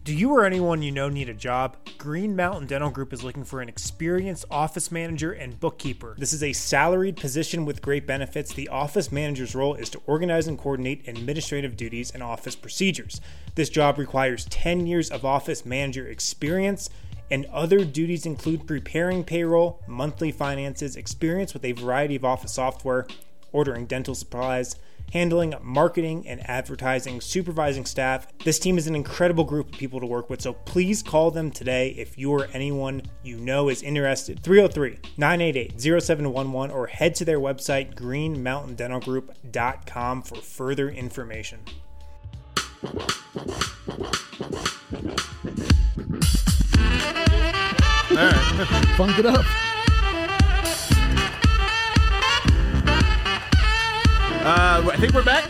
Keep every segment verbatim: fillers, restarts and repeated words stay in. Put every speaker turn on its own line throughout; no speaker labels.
Do you or anyone you know need a job? Green Mountain Dental Group is looking for an experienced office manager and bookkeeper. This is a salaried position with great benefits. The office manager's role is to organize and coordinate administrative duties and office procedures. This job requires ten years of office manager experience, and other duties include preparing payroll, monthly finances, experience with a variety of office software, ordering dental supplies, handling marketing and advertising, supervising staff. This team is an incredible group of people to work with, so please call them today if you or anyone you know is interested. three oh three, nine eight eight, oh seven one one or head to their website, green mountain dental group dot com, for further information.
All right.
Funk it up.
Uh, I think we're back.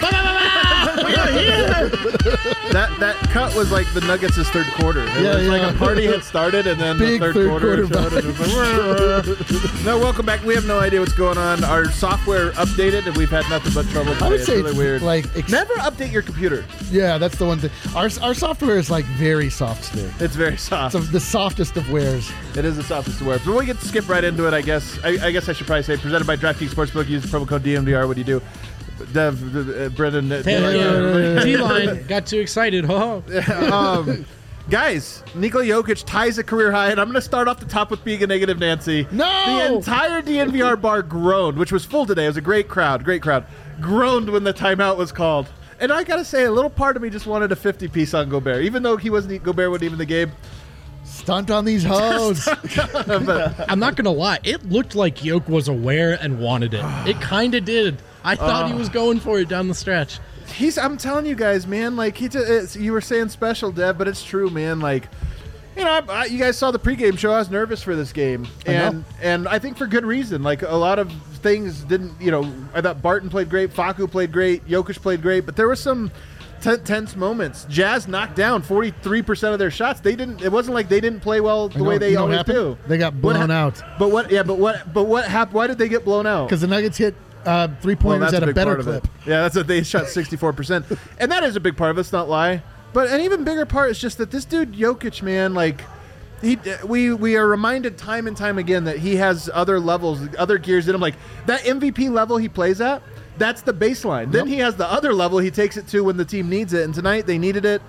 We are here. That that cut was like the Nuggets' third quarter. It
Yeah,
was
yeah.
like a party had started, and then
Big
the third,
third
quarter,
quarter
showed, and it was like, no, welcome back. We have no idea what's going on. Our software updated, and we've had nothing but trouble today.
I would
It's
say
really
it's
weird.
like ex-
Never update your computer.
Yeah, that's the one thing. Our our software is like very soft still.
It's very soft.
It's the softest of wares.
It is the softest to wear. But we get to skip right into it, I guess. I, I guess I should probably say, presented by DraftKings Sportsbook. Use the promo code D M V R. What do you do? Dev, uh, Brendan. Uh,
Yeah, T-line got too excited. Oh.
um, guys, Nikola Jokic ties a career high, and I'm going to start off the top with being a negative Nancy.
No!
The entire D N V R bar groaned, which was full today. It was a great crowd, great crowd. Groaned when the timeout was called. And I got to say, a little part of me just wanted a fifty-piece on Gobert, even though he wasn't. Gobert wasn't even in the game.
Stunt on these hoes.
But
I'm not going to lie. It looked like Yoke was aware and wanted it. It kind of did. I thought he was going for it down the stretch.
he's. I'm telling you guys, man. Like he, just, it's, you were saying special, Dev, but it's true, man. Like. You know, I, I, you guys saw the pregame show. I was nervous for this game, and
I
and I think for good reason. Like a lot of things didn't. You know, I thought Barton played great, Facu played great, Jokic played great, but there were some t- tense moments. Jazz knocked down forty-three percent of their shots. They didn't. It wasn't like they didn't play well the
You know-
way they
you know what
always
happened?
do.
They got
What
blown
hap-
out.
But what? Yeah, but what? But what happened? Why did they get blown out?
Because the Nuggets hit uh, three
Well,
pointers
that's
at a
big
better
part of
clip.
it. Yeah, that's what they shot sixty-four percent, and that is a big part of it. Let's not lie. But an even bigger part is just that this dude Jokic, man, like. He, we we are reminded time and time again that he has other levels, other gears in him. Like that M V P level he plays at, that's the baseline. Then
Yep.
he has the other level he takes it to when the team needs it. And tonight they needed it,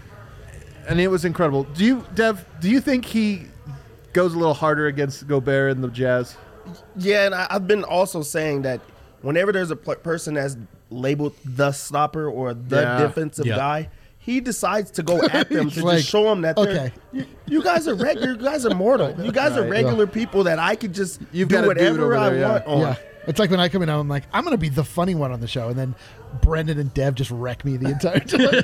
and it was incredible. Do you, Dev? Do you think he goes a little harder against Gobert and the Jazz?
Yeah, and I, I've been also saying that whenever there's a pl- person that's labeled the stopper or the
Yeah.
defensive
Yeah.
guy, he decides to go at them to
Like,
just show them that they're,
okay.
you, you guys are regular, you guys are mortal. You guys are
Right.
regular people that I could just
You've
do
got a dude
whatever
over
I
there, yeah.
want on.
Yeah. It's like when I come in, I'm like, I'm going to be the funny one on the show. And then Brendan and Dev just wreck me the entire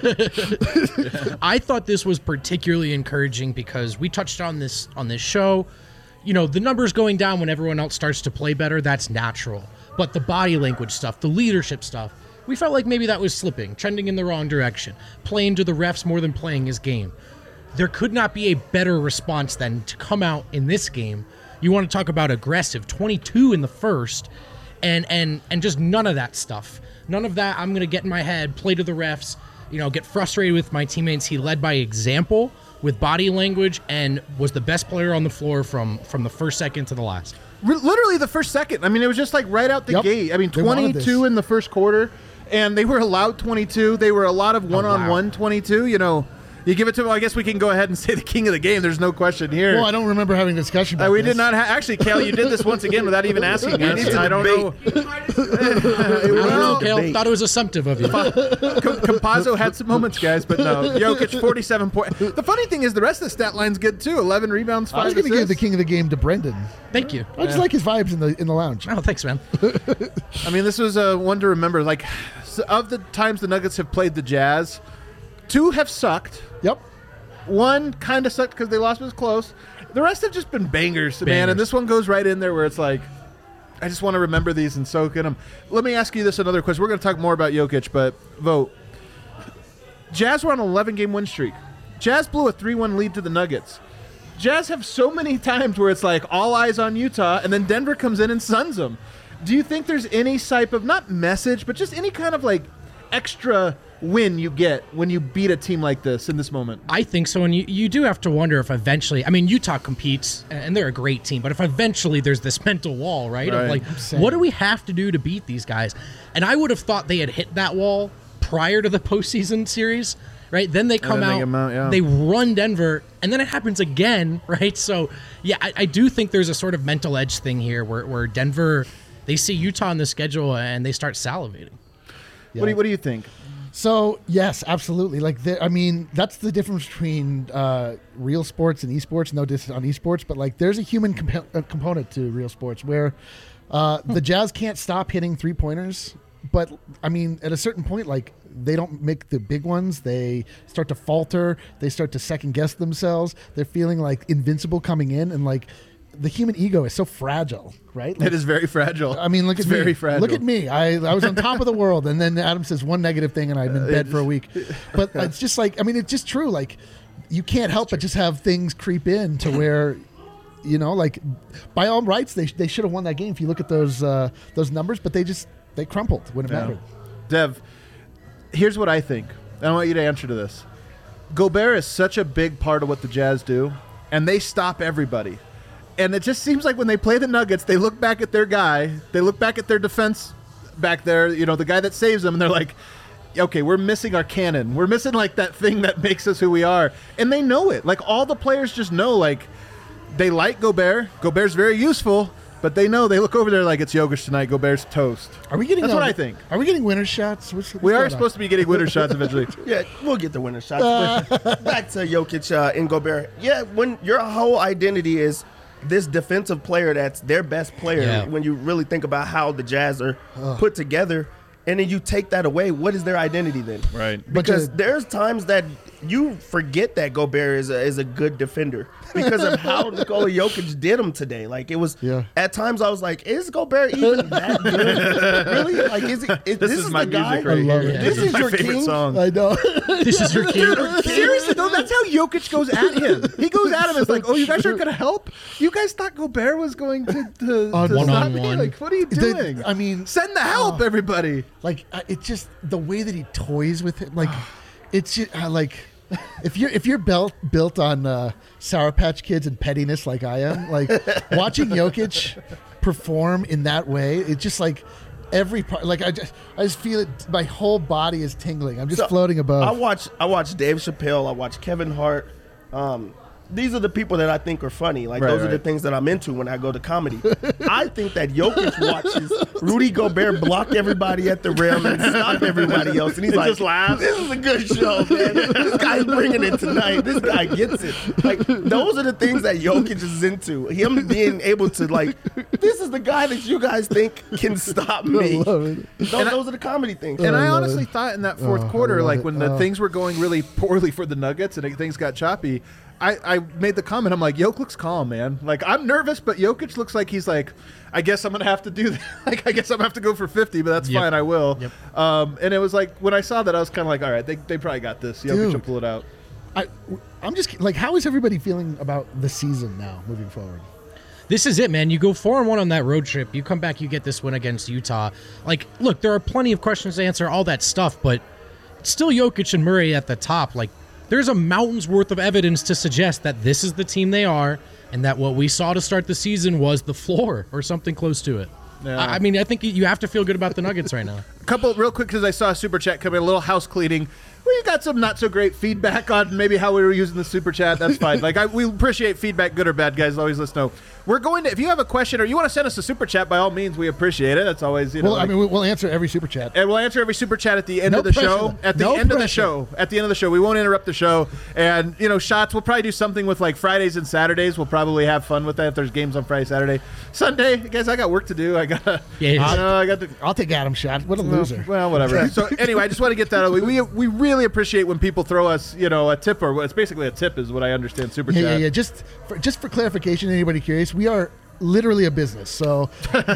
time.
I thought this was particularly encouraging because we touched on this on this show. You know, the numbers going down when everyone else starts to play better, that's natural. But the body language stuff, the leadership stuff, we felt like maybe that was slipping, trending in the wrong direction, playing to the refs more than playing his game. There could not be a better response than to come out in this game. You want to talk about aggressive, twenty-two in the first, and and and just none of that stuff. None of that. I'm going to get in my head, play to the refs, you know, get frustrated with my teammates. He led by example with body language and was the best player on the floor from from the first second to the last.
Re- Literally the first second. I mean, it was just like right out the
Yep.
gate. I mean,
They wanted
twenty-two
this.
in the first quarter, and they were allowed twenty-two. They were a lot of one-on-one twenty-two. You know, you give it to them. I guess we can go ahead and say the king of the game. There's no question here.
Well, I don't remember having a discussion about
Uh, we
this.
did not ha- actually, Kale. You did this once again without even asking us.
need to
I don't know.
I don't know,
Well,
Kale.
debate.
Thought it was assumptive of you.
Com- Campazzo had some moments, guys, but no. Jokic, forty-seven points. The funny thing is, the rest of the stat line's good too. eleven rebounds, five
I was going to give the
assists.
king of the game to Brendan.
Thank you.
I just like his vibes in the in the lounge.
Oh, thanks, man.
I mean, this was uh, one to remember. Like, s- of the times the Nuggets have played the Jazz, two have sucked.
Yep.
One kind of sucked because they lost, but it was close. The rest have just been bangers, man.
Bangers.
And this one goes right in there where it's like, I just want to remember these and soak in them. Let me ask you this another question. We're going to talk more about Jokic, but vote. Jazz were on an eleven-game win streak. Jazz blew a three one lead to the Nuggets. Jazz have so many times where it's like all eyes on Utah, and then Denver comes in and suns them. Do you think there's any type of, not message, but just any kind of like extra win you get when you beat a team like this in this moment?
I think so, and you, you do have to wonder if eventually, I mean, Utah competes, and they're a great team, but if eventually there's this mental wall, right?
Right.
Of like, what do we have to do to beat these guys? And I would have thought they had hit that wall prior to the postseason series, right? Then they come
then they
out,
come out, yeah.
they run Denver, and then it happens again, right? So, yeah, I, I do think there's a sort of mental edge thing here where, where Denver, they see Utah on the schedule, and they start salivating.
What do you, what do you think?
So yes, absolutely. Like, the, I mean, that's the difference between uh, real sports and esports. No diss on esports, but like, there's a human comp- uh, component to real sports where uh, the Jazz can't stop hitting three pointers. But I mean, at a certain point, like, they don't make the big ones. They start to falter. They start to second guess themselves. They're feeling like invincible coming in, and like, the human ego is so fragile, right? Like,
It is very fragile.
I mean, look
it's
at me.
very fragile.
Look at me. I, I was on top of the world, and then Adam says one negative thing, and I'm in bed for a week. But it's just like, I mean, it's just true. Like, you can't help but just have things creep in to where, you know, like, by all rights, they they should have won that game if you look at those uh, those numbers, but they just they crumpled when it
Yeah.
mattered.
Dev, here's what I think. I want you to answer to this. Gobert is such a big part of what the Jazz do, and they stop everybody. And it just seems like when they play the Nuggets, they look back at their guy, they look back at their defense back there, you know, the guy that saves them, and they're like, okay, we're missing our cannon. We're missing, like, that thing that makes us who we are. And they know it. Like, all the players just know, like, they like Gobert. Gobert's very useful, but they know. They look over there like, it's Jokic tonight. Gobert's toast.
Are we getting?
That's
uh,
what I think.
Are we getting winner shots? What's, what's
We are
going on?
supposed to be getting winner shots eventually.
Yeah, we'll get the winner shots. But back to Jokic uh, and Gobert. Yeah, when your whole identity is this defensive player that's their best player,
Yeah.
when you really think about how the Jazz are put together, and then you take that away, what is their identity then?
Right.
Because
But, uh,
there's times that you forget that Gobert is a, is a good defender because of how Nikola Jokic did him today. Like, it was,
Yeah.
at times I was like, is Gobert even that good? Really? Like, is, he, is
This,
this,
is,
is
my
the guy?
music right
I love
here.
it.
This is
my
your
favorite
king?
song.
I know.
This is your key.
Seriously, though, that's how Jokic goes at him. He goes at him. It's like, oh, you guys aren't going to help? You guys thought Gobert was going to, to,
On
to stop me?
one-on-one.
Like, what are you
The-
doing?
I mean,
Send the help, everybody.
like, uh, it just the way that he toys with it, like, it's just uh, like, if you're if you're built built on uh, Sour Patch Kids and pettiness like I am, like, watching Jokic perform in that way, it's just like every part. Like, I just I just feel it. My whole body is tingling. I'm just
So,
floating above.
I watch I watch Dave Chappelle. I watch Kevin Hart. Um, these are the people that I think are funny. Like,
Right,
those are the
right.
things that I'm into when I go to comedy. I think that Jokic watches Rudy Gobert block everybody at the rim and stop everybody else, and he's
He
like,
just laughs.
"This is a good show, man. This guy's bringing it tonight. This guy gets it." Like, those are the things that Jokic is into. Him being able to, like, this is the guy that you guys think can stop me.
I love it.
Those, those are the comedy things.
And I
I love
honestly
it.
thought in that fourth
Oh, I
quarter,
love
like
it.
when the
Oh.
things were going really poorly for the Nuggets and things got choppy, I, I made the comment, I'm like, Jokic looks calm, man. Like, I'm nervous, but Jokic looks like he's like, I guess I'm going to have to do that. Like, I guess I'm going to have to go for fifty, but that's
Yep.
fine, I will.
Yep.
Um, and it was like, when I saw that, I was kind of like, all right, they, they probably got this. Jokic
Dude.
will pull it out.
I, I'm just like, how is everybody feeling about the season now, moving forward?
This is it, man. You go four and one on that road trip. You come back, you get this win against Utah. Like, look, there are plenty of questions to answer, all that stuff, but it's still Jokic and Murray at the top. Like, there's a mountain's worth of evidence to suggest that this is the team they are, and that what we saw to start the season was the floor or something close to it.
Yeah.
I I mean, I think you have to feel good about the Nuggets right now.
A couple real quick because I saw a super chat come in, a little house cleaning. We got some not so great feedback on maybe how we were using the super chat. That's fine. Like, I, we appreciate feedback, good or bad, guys. Always let us know. We're going to, if you have a question or you want to send us a super chat, by all means, we appreciate it. That's always, you know.
Well, I
like-
mean, we- we'll answer every super chat.
and we'll answer every super chat at the end
No
of the
pressure,
show.
though.
At the
No
end of the
pressure.
show. At the end of the show. We won't interrupt the show. And, you know, shots, we'll probably do something with like Fridays and Saturdays. We'll probably have fun with that if there's games on Friday, Saturday. Sunday, guys, I got work to do. I got to,
Yeah,
you
yeah.
know, I got to.
I'll take Adam's shot. What a loser.
Well, whatever. So anyway, I just want to get that out of the way. We, we really appreciate when people throw us, you know, a tip, or it's basically a tip is what I understand, super
Yeah,
chat.
yeah, yeah. Just for, just for clarification, anybody curious, we are literally a business. So,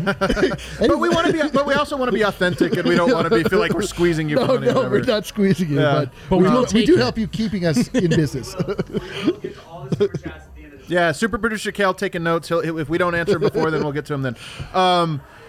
But we want to be, but we also want to be authentic, and we don't want to be feel like we're squeezing you. for
no,
money or
no,
whatever.
we're not squeezing you,
Yeah.
but,
But
we,
we
do,
will
we
take
do
it.
help you keeping us in business.
Get all the super chats at the end of the
Yeah, super producer Cal taking notes. He'll, if we don't answer before, then we'll get to him then. Um,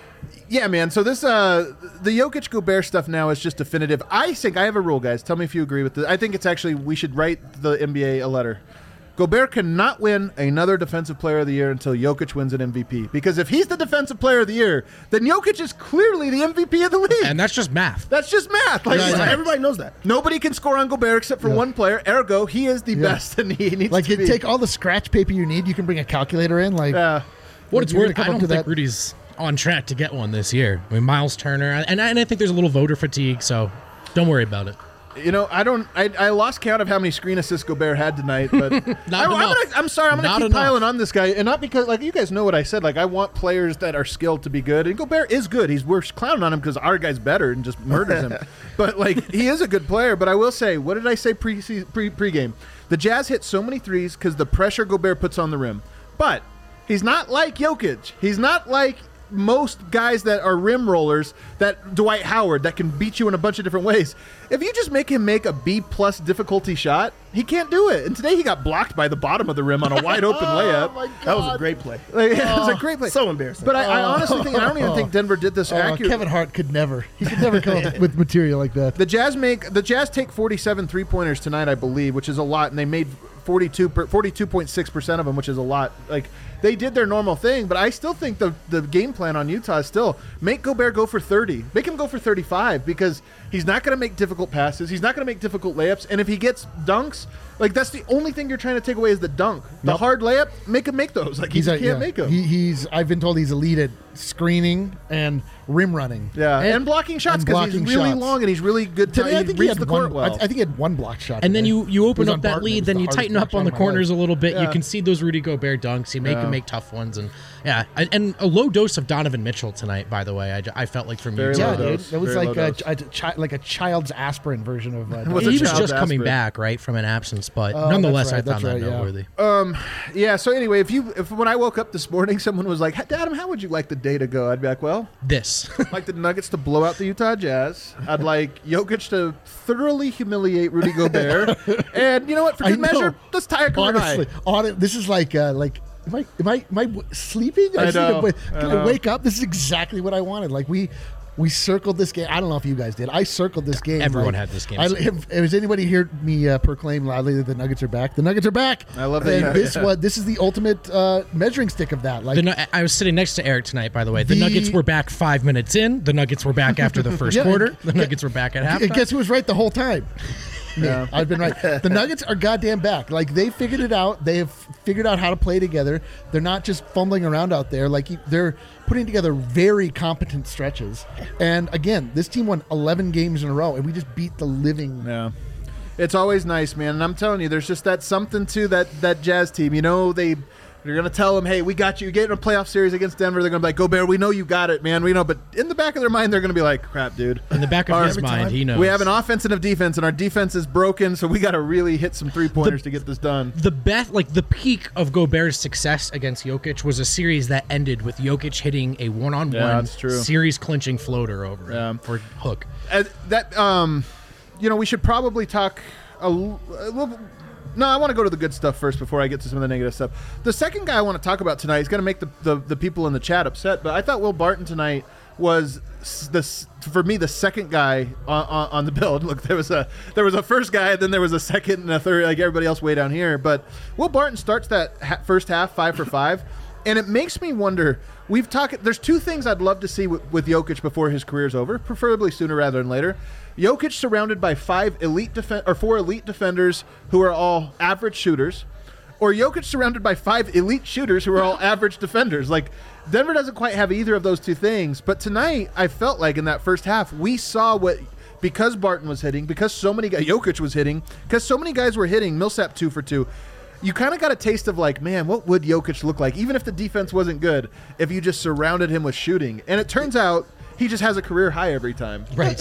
yeah, man. So this, uh, the Jokic Gobert stuff now is just definitive. I think I have a rule, guys. Tell me if you agree with this. I think it's actually we should write the N B A a letter. Gobert cannot win another Defensive Player of the Year until Jokic wins an M V P. Because if he's the Defensive Player of the Year, then Jokic is clearly the M V P of the league.
And that's just math.
That's just math. Like,
Yeah,
like,
everybody knows that.
nobody can score on Gobert except for
Yeah.
one player. Ergo, he is the
Yeah.
best, and he needs
Like
to
you
be.
take all the scratch paper you need. You can bring a calculator in. Like
Yeah.
What it's
You're
worth,
gonna
I
come up
don't
to
think
that-
Rudy's on track to get one this year. I mean, Miles Turner, and I, and I think there's a little voter fatigue, so don't worry about it.
You know, I don't. I, I lost count of how many screen assists Gobert had tonight, but I, I'm,
enough.
gonna, I'm sorry. I'm gonna
Not
keep
enough.
piling on this guy, and not because like you guys know what I said. Like I want players that are skilled to be good, and Gobert is good. He's we're clowning on him because our guy's better and just murders him. But like he is a good player. But I will say, what did I say pre pre pregame? The Jazz hit so many threes because the pressure Gobert puts on the rim, but he's not like Jokic. He's not like most guys that are rim rollers, that Dwight Howard, that can beat you in a bunch of different ways. If you just make him make a B plus difficulty shot, he can't do it. And today he got blocked by the bottom of the rim on a wide open layup.
That was a great play.
Like, it was a great play.
So embarrassing.
But I, I honestly think I don't even think Denver did this
oh,
accurately.
Kevin Hart could never. He could never come up with material like that.
The Jazz make the Jazz take forty-seven three-pointers tonight, I believe, which is a lot, and they made forty-two forty-two point six percent of them, which is a lot. Like they did their normal thing, but I still think the the game plan on Utah is still make Gobert go for thirty. Make him go for thirty-five because he's not going to make difficult passes. He's not going to make difficult layups, and if he gets dunks, like that's the only thing you're trying to take away is the dunk. The
Yep.
hard layup, make him make those. Like he
He's
just
a-
can't
yeah.
make them.
He, he's. I've been told he's elite at screening and rim running.
yeah, and, blocking shots
and
because he's
blocking
really
shots.
long and he's really good.
Today,
he
I think he
reads
had
the
one.
court well.
I, I think he had one block shot.
And then
today.
you, you
It
open
was
up
on
that
Barton. It
lead,
was
then
the
you
hardest
tighten
block
up
shot
on the
of my life.
corners a little bit.
Yeah.
You concede those Rudy Gobert dunks. You make
Yeah.
him make tough ones, and yeah, and, and a low dose of Donovan Mitchell tonight. By the way, I, j- I felt like from
Very
Utah.
Yeah,
low
dude.
dose.
It was
Very
like
low
a,
dose.
a, chi- like a child's aspirin version of. Uh,
Was
he
a
was
child's
just coming
aspirin.
back, right, from an absence, but
Oh,
nonetheless,
that's right,
I found
that's
that
right, yeah.
noteworthy.
Yeah. So anyway, if you if when I woke up this morning, someone was like, "Hey, Adam, how would you like the day to go?" I'd be like, "Well,
This.
I'd like the Nuggets to blow out the Utah Jazz. I'd like Jokic to thoroughly humiliate Rudy Gobert, and you know what? For
I
good
know.
measure, let's tie a career
Honestly,
high."
on it, this is like uh, like. Am I, am I am I w- sleeping?
I
just need to
know,
wa-
I
Can
know.
I wake up? This is exactly what I wanted. Like we we circled this game. I don't know if you guys did. I circled this game.
Everyone
like,
had this game
I,
circled.
have, has anybody heard me uh, proclaim loudly that the Nuggets are back? The Nuggets are back.
I love that
And
you-
this
yeah.
was this is the ultimate uh, measuring stick of that. Like
The, Nu- I was sitting next to Eric tonight, by the way. The,
The-
Nuggets were back five minutes in. The Nuggets were back after the first
Yeah,
quarter. The
and-
Nuggets were back at
And
halftime.
guess who was right the whole time? Me.
Yeah.
I've been right. The Nuggets are goddamn back. Like they figured it out. They have figured out how to play together. They're not just fumbling around out there. Like they're putting together very competent stretches. And again, this team won eleven games in a row, and we just beat the living.
Yeah. It's always nice, man. And I'm telling you, there's just that something to that that Jazz team. You know, they they're gonna tell them, "Hey, we got you. You get in a playoff series against Denver." They're gonna be like, "Gobert, we know you got it, man. We know." But in the back of their mind, they're gonna be like, "Crap, dude.
In the back of
Our-
his mind, he knows.
We have an offense and a defense, and our defense is broken, so we got to really hit some three pointers to get this done."
The best, like the peak of Gobert's success against Jokic was a series that ended with Jokic hitting a one-on-one
Yeah, that's true.
series-clinching floater over
Yeah.
him, or hook.
Uh, that um, you know, we should probably talk a, l- a little. No, I want to go to the good stuff first before I get to some of the negative stuff. The second guy I want to talk about tonight is going to make the, the the people in the chat upset, but I thought Will Barton tonight was s- the s- for me the second guy on, on, on the build. Look, there was a there was a first guy, then there was a second and a third, like everybody else way down here. But Will Barton starts that ha- first half five for five, and it makes me wonder. We've talked. There's two things I'd love to see with, with Jokic before his career's over, preferably sooner rather than later. Jokic surrounded by five elite defen- or four elite defenders who are all average shooters, or Jokic surrounded by five elite shooters who are all average defenders. Like Denver doesn't quite have either of those two things. But tonight, I felt like in that first half, we saw what because Barton was hitting, because so many guys, Jokic was hitting, because so many guys were hitting. Millsap two for two. You kind of got a taste of like, man, what would Jokic look like, even if the defense wasn't good, if you just surrounded him with shooting? And it turns out he just has a career high every time.
Right.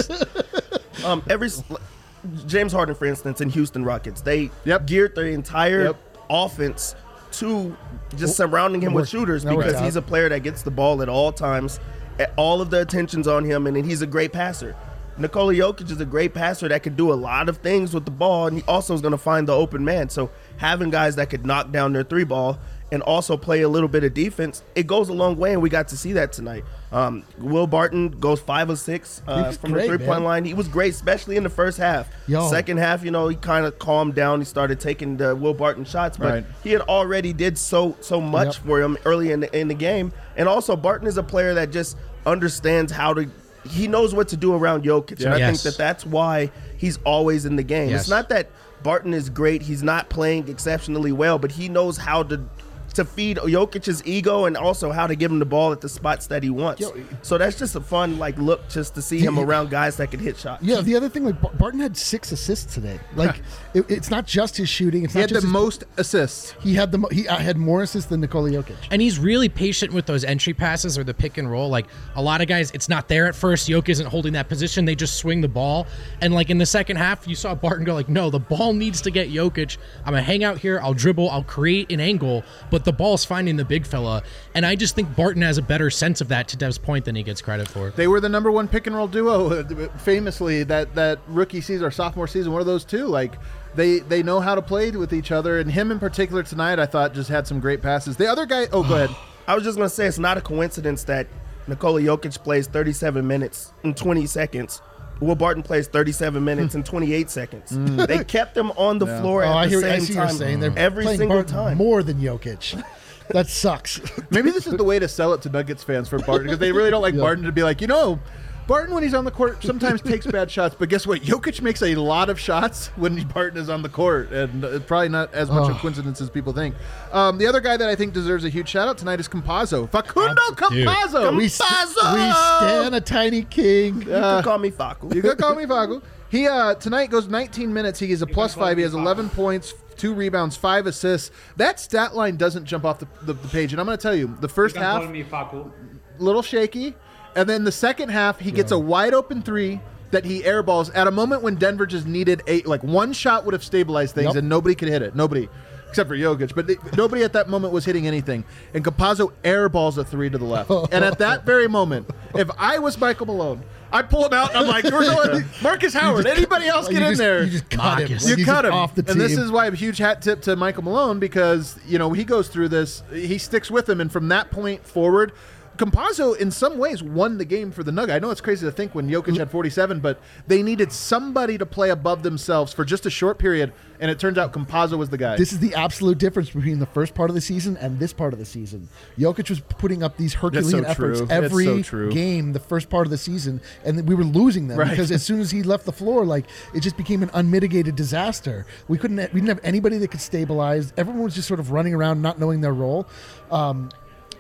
Um, every s- James Harden, for instance, in Houston Rockets, they
Yep.
geared their entire
Yep.
offense to just surrounding him with
Worked-
shooters
that worked
because he's
out.
a player that gets the ball at all times. a- All of the attention's on him, and he's a great passer. Nikola Jokic is a great passer that could do a lot of things with the ball, and he also is going to find the open man. So having guys that could knock down their three ball and also play a little bit of defense, it goes a long way, and we got to see that tonight. Um, Will Barton goes five of six uh,
was
from
great,
the three-point
man.
line. He was great, especially in the first half.
Yo.
Second half, you know, he kind of calmed down. He started taking the Will Barton shots, but
Right.
he had already did so so much
Yep.
for him early in the, in the game. And also, Barton is a player that just understands how to – he knows what to do around Jokic, and I
Yes.
think that that's why he's always in the game.
Yes.
It's not that Barton is great. He's not playing exceptionally well, but he knows how to to feed Jokic's ego and also how to give him the ball at the spots that he wants.
Yo,
so that's just a fun like look just to see him around guys that can hit shots.
Yeah, the other thing, like Bar- Barton had six assists today. Like, it, it's not just his shooting. It's
He
not
had
just
the
his-
most assists.
He had the mo- he uh, had more assists than Nikola Jokic.
And he's really patient with those entry passes or the pick and roll. Like a lot of guys, it's not there at first. Jokic isn't holding that position. They just swing the ball. And like in the second half, you saw Barton go like, no, the ball needs to get Jokic. I'm going to hang out here. I'll dribble. I'll create an angle. But the ball's finding the big fella. And I just think Barton has a better sense of that, to Dev's point, than he gets credit for.
They were the number one pick and roll duo, uh, famously that that rookie season or sophomore season. One of those two, like they they know how to play with each other. And him in particular tonight, I thought just had some great passes. The other guy, oh, go ahead.
I was just going to say it's not a coincidence that Nikola Jokic plays thirty-seven minutes and twenty seconds. Will Barton plays thirty-seven minutes and twenty-eight seconds. They kept them on the floor
Oh,
at
I
the
hear.
same
I see
time
what you're saying. They're
every
playing
single
Barton
time.
more than Jokic. That sucks.
Maybe this is the way to sell it to Nuggets fans for Barton, because they really don't like
Yeah.
Barton to be like, you know, Barton when he's on the court sometimes takes bad shots, but guess what? Jokic makes a lot of shots when Barton is on the court, and it's probably not as much
Oh.
a coincidence as people think. Um, the other guy that I think deserves a huge shout out tonight is Campazzo. Facundo
Dude.
Campazzo.
we, st- we stand a tiny king.
You can call me Faku.
You could call me Facu. He uh, tonight goes nineteen minutes. He is a plus five. He has eleven points, two rebounds, five assists. That stat line doesn't jump off the, the, the page. And I'm going to tell you, the first
You can
half,
call me Faku.
little shaky, and then the second half, he gets a wide open three that he airballs at a moment when Denver just needed a like one shot would have stabilized things,
Yep.
and nobody could hit it. Nobody. Except for Jokic, but they, nobody at that moment was hitting anything. And Campazzo airballs a three to the left. And at that very moment, if I was Michael Malone, I'd pull him out and I'm like, we're going Marcus Howard.
just
Anybody
cut-
else
you
get in
just-
there?
You just cut him.
Marcus.
Like,
You
he's
cut
just
him.
off the team.
And this is why a huge hat tip to Michael Malone, because, you know, he goes through this, he sticks with him, and from that point forward, Campazzo, in some ways, won the game for the Nuggets. I know it's crazy to think when Jokic had forty-seven, but they needed somebody to play above themselves for just a short period, and it turns out Campazzo was the guy.
This is the absolute difference between the first part of the season and this part of the season. Jokic was putting up these Herculean
so
efforts
true. That's
every
so true.
game, the first part of the season, and then we were losing them
Right.
because as soon as he left the floor, like it just became an unmitigated disaster. We couldn't, we didn't have anybody that could stabilize. Everyone was just sort of running around, not knowing their role. Um,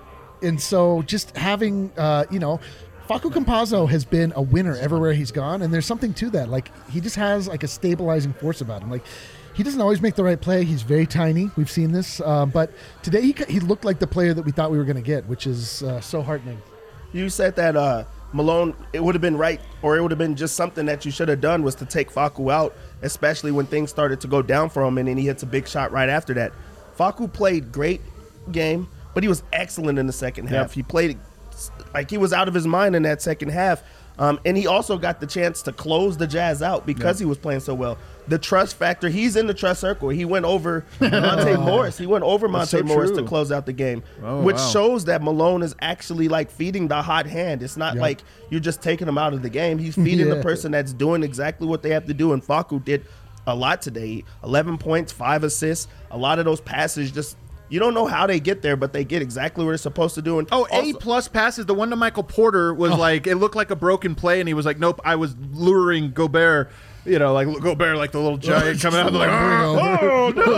and so just having, uh, you know, Facu Campazzo has been a winner everywhere he's gone, and there's something to that. Like he just has like a stabilizing force about him. Like he doesn't always make the right play. He's very tiny. We've seen this, uh, but today he he looked like the player that we thought we were going to get, which is uh, so heartening.
You said that uh, Malone, it would have been right, or it would have been just something that you should have done was to take Facu out, especially when things started to go down for him, and then he hits a big shot right after that. Facu played great game, but he was excellent in the second half. He played like he was out of his mind in that second half. Um, and he also got the chance to close the Jazz out because he was playing so well. The trust factor, he's in the trust circle. He went over Monte Morris. He went over Monte
so
Morris
true.
to close out the game,
Oh,
which
wow.
shows that Malone is actually like feeding the hot hand. It's not
Yeah.
like you're just taking him out of the game. He's feeding the
Yeah.
person that's doing exactly what they have to do. And Facu did a lot today. eleven points, five assists. A lot of those passes just, you don't know how they get there, but they get exactly what they're supposed to do. And
Oh, A
also-
plus passes. The one to Michael Porter was like, it looked like a broken play, and he was like, nope, I was luring Gobert. You know, like Gobert, like the little giant coming out, like, oh, oh, no,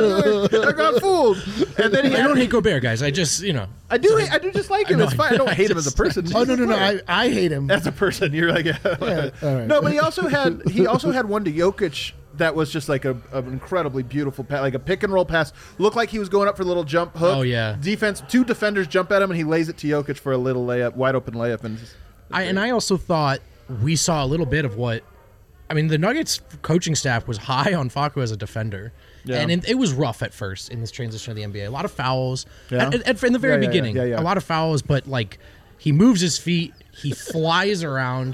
I got, I got fooled. And then he
I
had,
don't hate Gobert, guys. I just, you know.
I do, I do just like him.
know,
It's fine. I don't
I
hate him as a
just-
person.
Oh no no no! I, I hate him.
As a person, you're like,
all right.
no, but he also had he also had one to Jokic that was just like a, an incredibly beautiful pass, like a pick and roll pass. Looked like he was going up for the little jump hook.
Oh, yeah.
Defense, two defenders jump at him, and he lays it to Jokic for a little layup, wide open layup, and just,
I, and I also thought we saw a little bit of what, I mean, the Nuggets coaching staff was high on Facu as a defender.
Yeah.
And it, it was rough at first in this transition of the N B A. A lot of fouls.
Yeah.
At, at- in the very
Yeah, yeah,
beginning,
yeah, yeah.
a lot of fouls, but like he moves his feet, he flies around.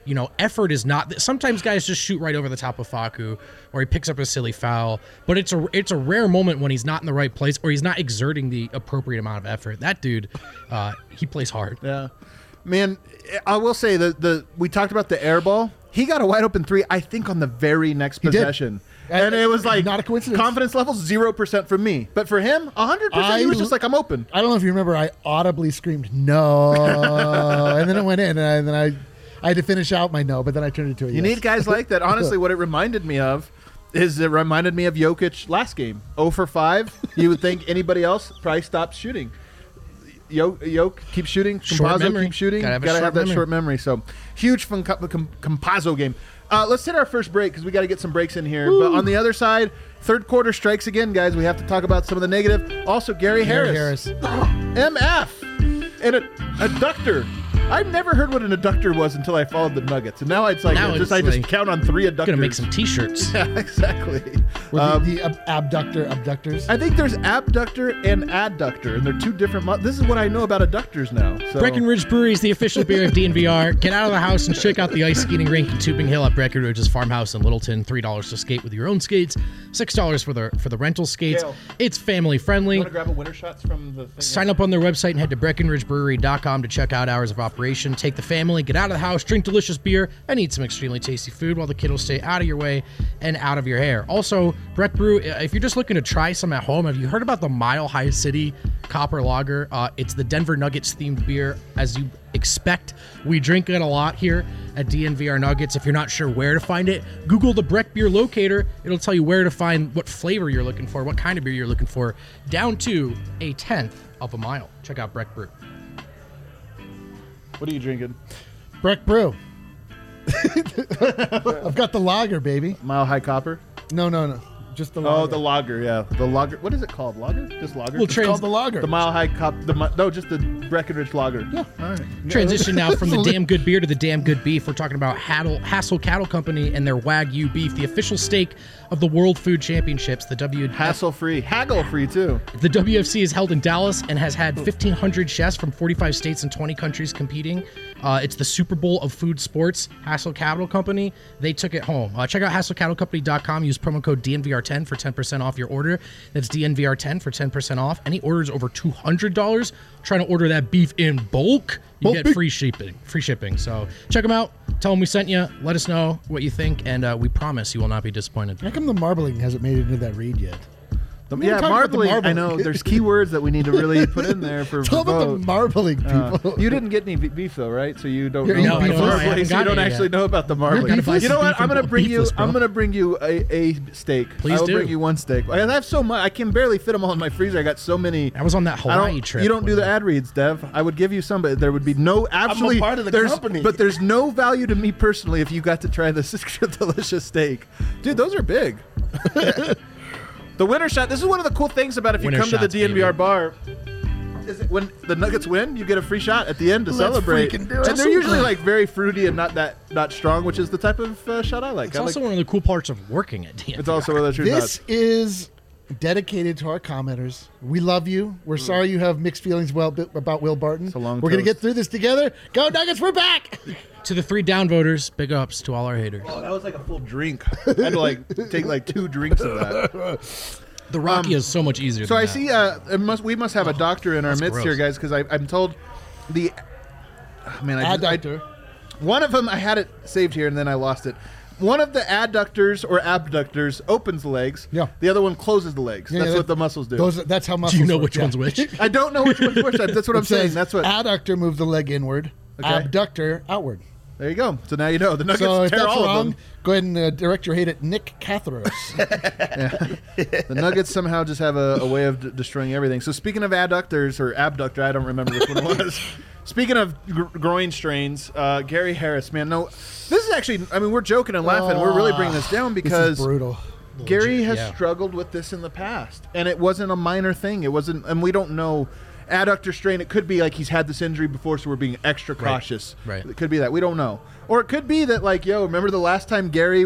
You know, effort is not. Sometimes guys just shoot right over the top of Facu, or he picks up a silly foul. But it's a it's a rare moment when he's not in the right place, or he's not exerting the appropriate amount of effort. That dude, uh, he plays hard.
Yeah, man. I will say that the we talked about the air ball. He got a wide open three, I think, on the very next
He did.
possession. And it was like
Not a coincidence.
confidence level zero percent from me, but for him, a hundred percent. He was
I-
just like, I'm open.
I don't know if you remember, I audibly screamed no, and then it went in, and, I, and then I, I had to finish out my no, but then I turned it to a
You
yes.
need guys like that. Honestly, what it reminded me of is it reminded me of Jokic last game. zero for five. You would think anybody else probably stopped shooting. Yo, Yoke keep shooting.
Short
Compazzo
memory.
keep shooting.
Gotta have a
Gotta
short
have that
memory.
short memory. So huge fun com- com- Compazzo game. Uh, let's hit our first break because we got to get some breaks in here. But on the other side, third quarter strikes again, guys. We have to talk about some of the negative. Also, Gary
Gary
Harris,
Harris.
M F, and a adductor. I've never heard what an adductor was until I followed the Nuggets, and now it's like
Now
I just
it's
I just
like-
count on three adductors.
Gonna make some T-shirts.
Yeah, exactly.
Were
Um,
the, the ab- abductor abductors.
I think there's abductor and adductor, and they're two different. Mo- this is what I know about adductors now. So.
Breckenridge Brewery is the official beer of D N V R. Get out of the house and check out the ice skating rink in Tubing Hill at Breckenridge's farmhouse in Littleton. Three dollars to skate with your own skates, six dollars for the for the rental skates.
Gail.
It's family friendly.
You want to grab a winter shots from the thing?
Sign up on their website and head to breckenridge brewery dot com to check out hours of operation. Take the family, get out of the house, drink delicious beer, and eat some extremely tasty food while the kiddos stay out of your way and out of your hair. Also, Breck Brew, if you're just looking to try some at home, have you heard about the Mile High City Copper Lager? Uh, it's the Denver Nuggets themed beer. As you expect, we drink it a lot here at D N V R Nuggets. If you're not sure where to find it, Google the Breck Beer Locator. It'll tell you where to find what flavor you're looking for, what kind of beer you're looking for, down to a tenth of a mile. Check out Breck Brew.
What are you drinking?
Breck Brew. I've got the lager, baby.
Mile High Copper.
No, no, no. Just the lager.
Oh, the lager. Yeah, the lager. What is it called? Lager? Just lager.
Well,
It's
trans-
called the lager.
The Mile High Cop. The mi- no, just the Breckenridge Lager.
Yeah.
All right.
Transition now from the damn good beer to the damn good beef. We're talking about Haddle, Hassel Cattle Company and their Wagyu beef, the official steak of the World Food Championships. The W
Hassle free, haggle free too.
The W F C is held in Dallas and has had fifteen hundred chefs from forty-five states and twenty countries competing. Uh, it's the Super Bowl of food sports. Hassel Cattle Company, they took it home. Uh, check out hassel cattle company dot com. Use promo code D N V R ten for ten percent off your order. That's D N V R ten for ten percent off. Any orders over two hundred dollars, trying to order that beef in bulk, you
Bulk
get
beef.
free shipping. Free shipping. So check them out. Tell them we sent you. Let us know what you think, and uh, we promise you will not be disappointed.
How come the marbling hasn't made it into that read yet?
The-
We
yeah,
were talking about the
marbling. I
marbling.
know. There's key words that we need to really put in there for.
Tell
for
about the
vote.
marbling,
Uh,
people.
you didn't get any be- beef though, right? So you don't
You're
know
eating
about the
beef? I
marbling,
haven't
so you
gotten
don't
it
actually
yet.
know about the marbling.
beefless?
You know what?
Beef
I'm
and
gonna bring you.
beefless, bro.
I'm gonna bring you a, a steak.
Please
I'll
do.
bring you one steak. I have so much. I can barely fit them all in my freezer. I got so many.
I was on that
I
Hawaii
don't,
trip.
you don't do
when
the ad reads, Dev. I would give you some, but there would be no absolutely.
part of the
there's,
company.
But there's no value to me personally if you got to try this delicious steak, dude. Those are big. The winter shot. This is one of the cool things about if you
Winter
come to the
shots,
D N V R
baby.
bar. Is it when the Nuggets win, you get a free shot at the end to
Let's
celebrate.
freaking do it.
And they're usually like very fruity and not that not strong, which is the type of uh, shot I like.
It's
I
also
like
one of the cool parts of working at D N V R.
it's also one of those true
This
shots.
is dedicated to our commenters. We love you. We're sorry you have mixed feelings well about Will Barton.
a long
We're going to
toast.
get through this together. Go Nuggets, we're back.
To the three down voters, big ups to all our haters.
Oh, that was like a full drink. I had to like take like two drinks of that.
The Rocky is so much easier.
So
than
I
that.
see. Uh, it must we must have a doctor in our
that's
midst
gross.
here, guys, because I'm told the. Oh, man, I, just, I
Adductor.
one of them I had it saved here and then I lost it. One of the adductors or abductors opens the legs.
Yeah.
The other one closes the legs.
Yeah,
that's
yeah,
what the muscles do.
Those, that's how muscles
Do you know
work,
which
yeah.
one's which?
I don't know which one's which. That's what I'm
It
saying.
says
That's what.
adductor moves the leg inward,
Okay.
abductor outward.
There you go. So now you know the Nuggets
So if
tear
that's
all of
wrong,
them.
go ahead and uh, direct your hate at Nick Cathros.
The Nuggets somehow just have a, a way of d- destroying everything. So speaking of adductors or abductor, I don't remember which one it was. Speaking of gr- groin strains, uh, Gary Harris, man, no, this is actually. I mean, we're joking and laughing. We're really bringing this down
this
because
is brutal.
Gary has
yeah.
struggled with this in the past, and it wasn't a minor thing. It wasn't, and we don't know. Adductor strain, it could be like he's had this injury before, so we're being extra cautious.
Right.
It could be that. We don't know. Or it could be that, like, yo, remember the last time Gary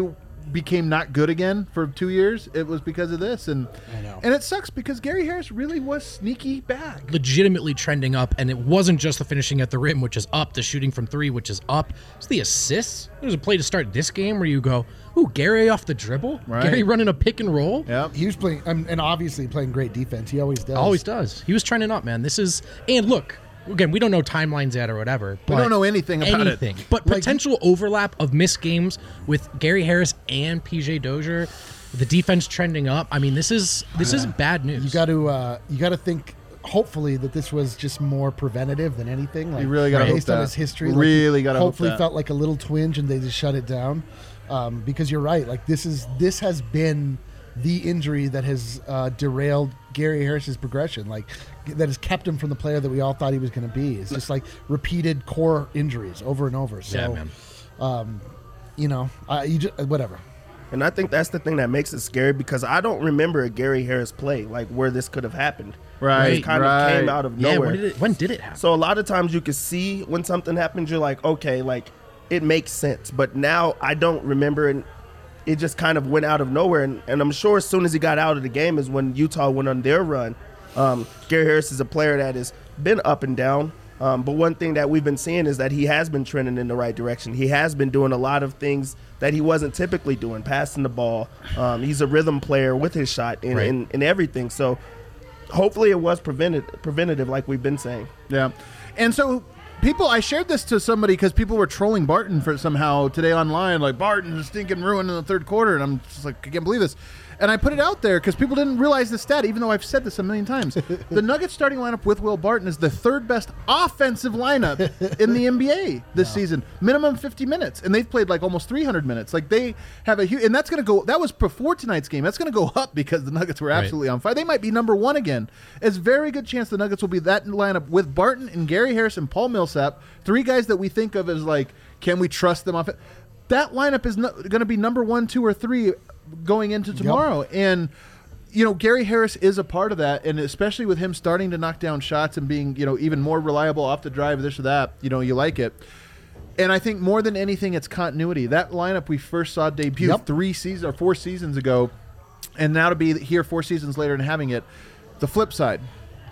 became not good again for two years, it was because of this. And
I know.
and it sucks because Gary Harris really was sneaky bad.
Legitimately trending up, and it wasn't just the finishing at the rim, which is up, the shooting from three, which is up. It's the assists. There's a play to start this game where you go, ooh, Gary off the dribble?
Right.
Gary running a pick and roll?
Yeah.
He was playing, um, and obviously playing great defense. He always does.
Always does. He was trending up, man. This is, and look, again, we don't know timelines yet or whatever.
We
but
don't know anything about
anything.
it.
But
Like-
potential overlap of missed games with Gary Harris and P J Dozier, the defense trending up. I mean, this is this is bad news.
You got to, uh, you got to think. Hopefully, that this was just more preventative than anything. Like,
You really gotta
based
hope
on
that.
his history.
Really
like, he
gotta hope
Hopefully,
that.
felt like a little twinge, and they just shut it down. Um, because you're right. Like this is this has been the injury that has uh, derailed Gary Harris's progression. Like that has kept him from the player that we all thought he was going to be. It's just like repeated core injuries over and over. So,
yeah, man.
um, you know, uh, you just, whatever.
And I think that's the thing that makes it scary because I don't remember a Gary Harris play like where this could have happened.
Right,
It kind
right.
of came out of
Yeah,
nowhere.
when did it when did it happen?
So a lot of times you can see when something happens, you're like, okay, like it makes sense. But now I don't remember, and it just kind of went out of nowhere. And, and I'm sure as soon as he got out of the game is when Utah went on their run. Um, Gary Harris is a player that has been up and down. Um, but one thing that we've been seeing is that he has been trending in the right direction. He has been doing a lot of things that he wasn't typically doing, passing the ball. Um, he's a rhythm player with his shot and,
Right.
and, and everything. So hopefully it was prevented, preventative like we've been saying.
Yeah. And so people, I shared this to somebody because people were trolling Barton for somehow today online, like Barton's stinking ruin in the third quarter. And I'm just like, I can't believe this. And I put it out there because people didn't realize the stat, even though I've said this a million times. The Nuggets starting lineup with Will Barton is the third best offensive lineup in the N B A this season. Minimum fifty minutes. And they've played like almost three hundred minutes. Like they have a huge, and that's going to go, that was before tonight's game. That's going to go up because the Nuggets were absolutely on fire. They might be number one again. It's a very good chance the Nuggets will be that lineup with Barton and Gary Harris and Paul Millsap, three guys that we think of as like, can we trust them off it? That lineup is no, going to be number one, two, or three going into tomorrow. Yep. And, you know, Gary Harris is a part of that. And especially with him starting to knock down shots and being, you know, even more reliable off the drive, this or that, you know, you like it. And I think more than anything, it's continuity. That lineup we first saw debut
Yep.
three seasons or four seasons ago, and now to be here four seasons later and having it. The flip side.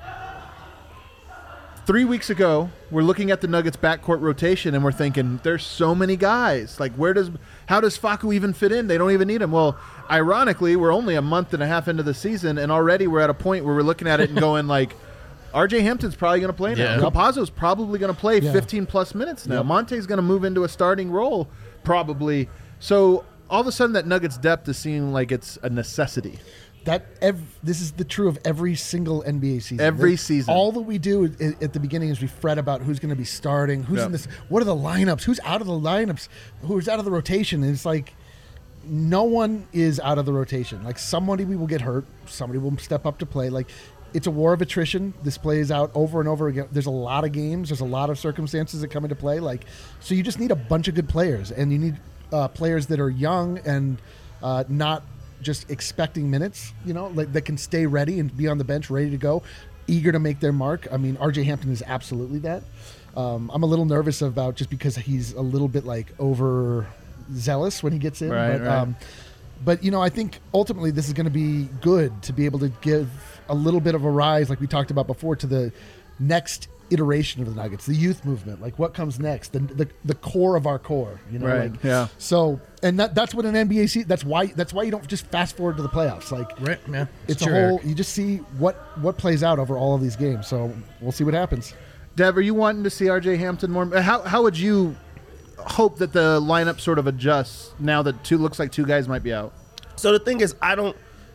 Three weeks ago, we're looking at the Nuggets backcourt rotation, and we're thinking, there's so many guys. Like, where does, how does Facu even fit in? They don't even need him. Well, ironically, we're only a month and a half into the season, and already we're at a point where we're looking at it and going, like, R J Hampton's probably going to play now.
Yeah.
Yep. Campazzo's probably going to play
Yeah.
fifteen-plus minutes now.
Yep.
Monte's going to move into a starting role, probably. So all of a sudden, that Nuggets depth is seeming like it's a necessity.
That ev- this is the true of every single N B A season.
Every
Like,
season.
all that we do i- at the beginning is we fret about who's going to be starting, who's
Yep.
in this, what are the lineups, who's out of the lineups, who's out of the rotation. And it's like no one is out of the rotation. Like somebody will get hurt, somebody will step up to play. Like it's a war of attrition. This plays out over and over again. There's a lot of games. There's a lot of circumstances that come into play. Like so, you just need a bunch of good players, and you need uh, players that are young and uh, not just expecting minutes, you know, like that can stay ready and be on the bench, ready to go, eager to make their mark. I mean, R J Hampton is absolutely that. Um, I'm a little nervous about just because he's a little bit like over zealous when he gets in.
Right,
but,
right.
Um, but, you know, I think ultimately this is going to be good to be able to give a little bit of a rise, like we talked about before, to the next iteration of the Nuggets, the youth movement. Like what comes next, the the, the core of our core, you know.
Right,
Like,
yeah.
So, and that, that's what an N B A season. That's why. That's why you don't just fast forward to the playoffs. Like,
Right, yeah.
it's
Sure,
a whole.
Eric.
You just see what what plays out over all of these games. So we'll see what happens.
Dev, are you wanting to see R J Hampton more? How how would you hope that the lineup sort of adjusts now that two looks like two guys might be out?
So the thing is, I don't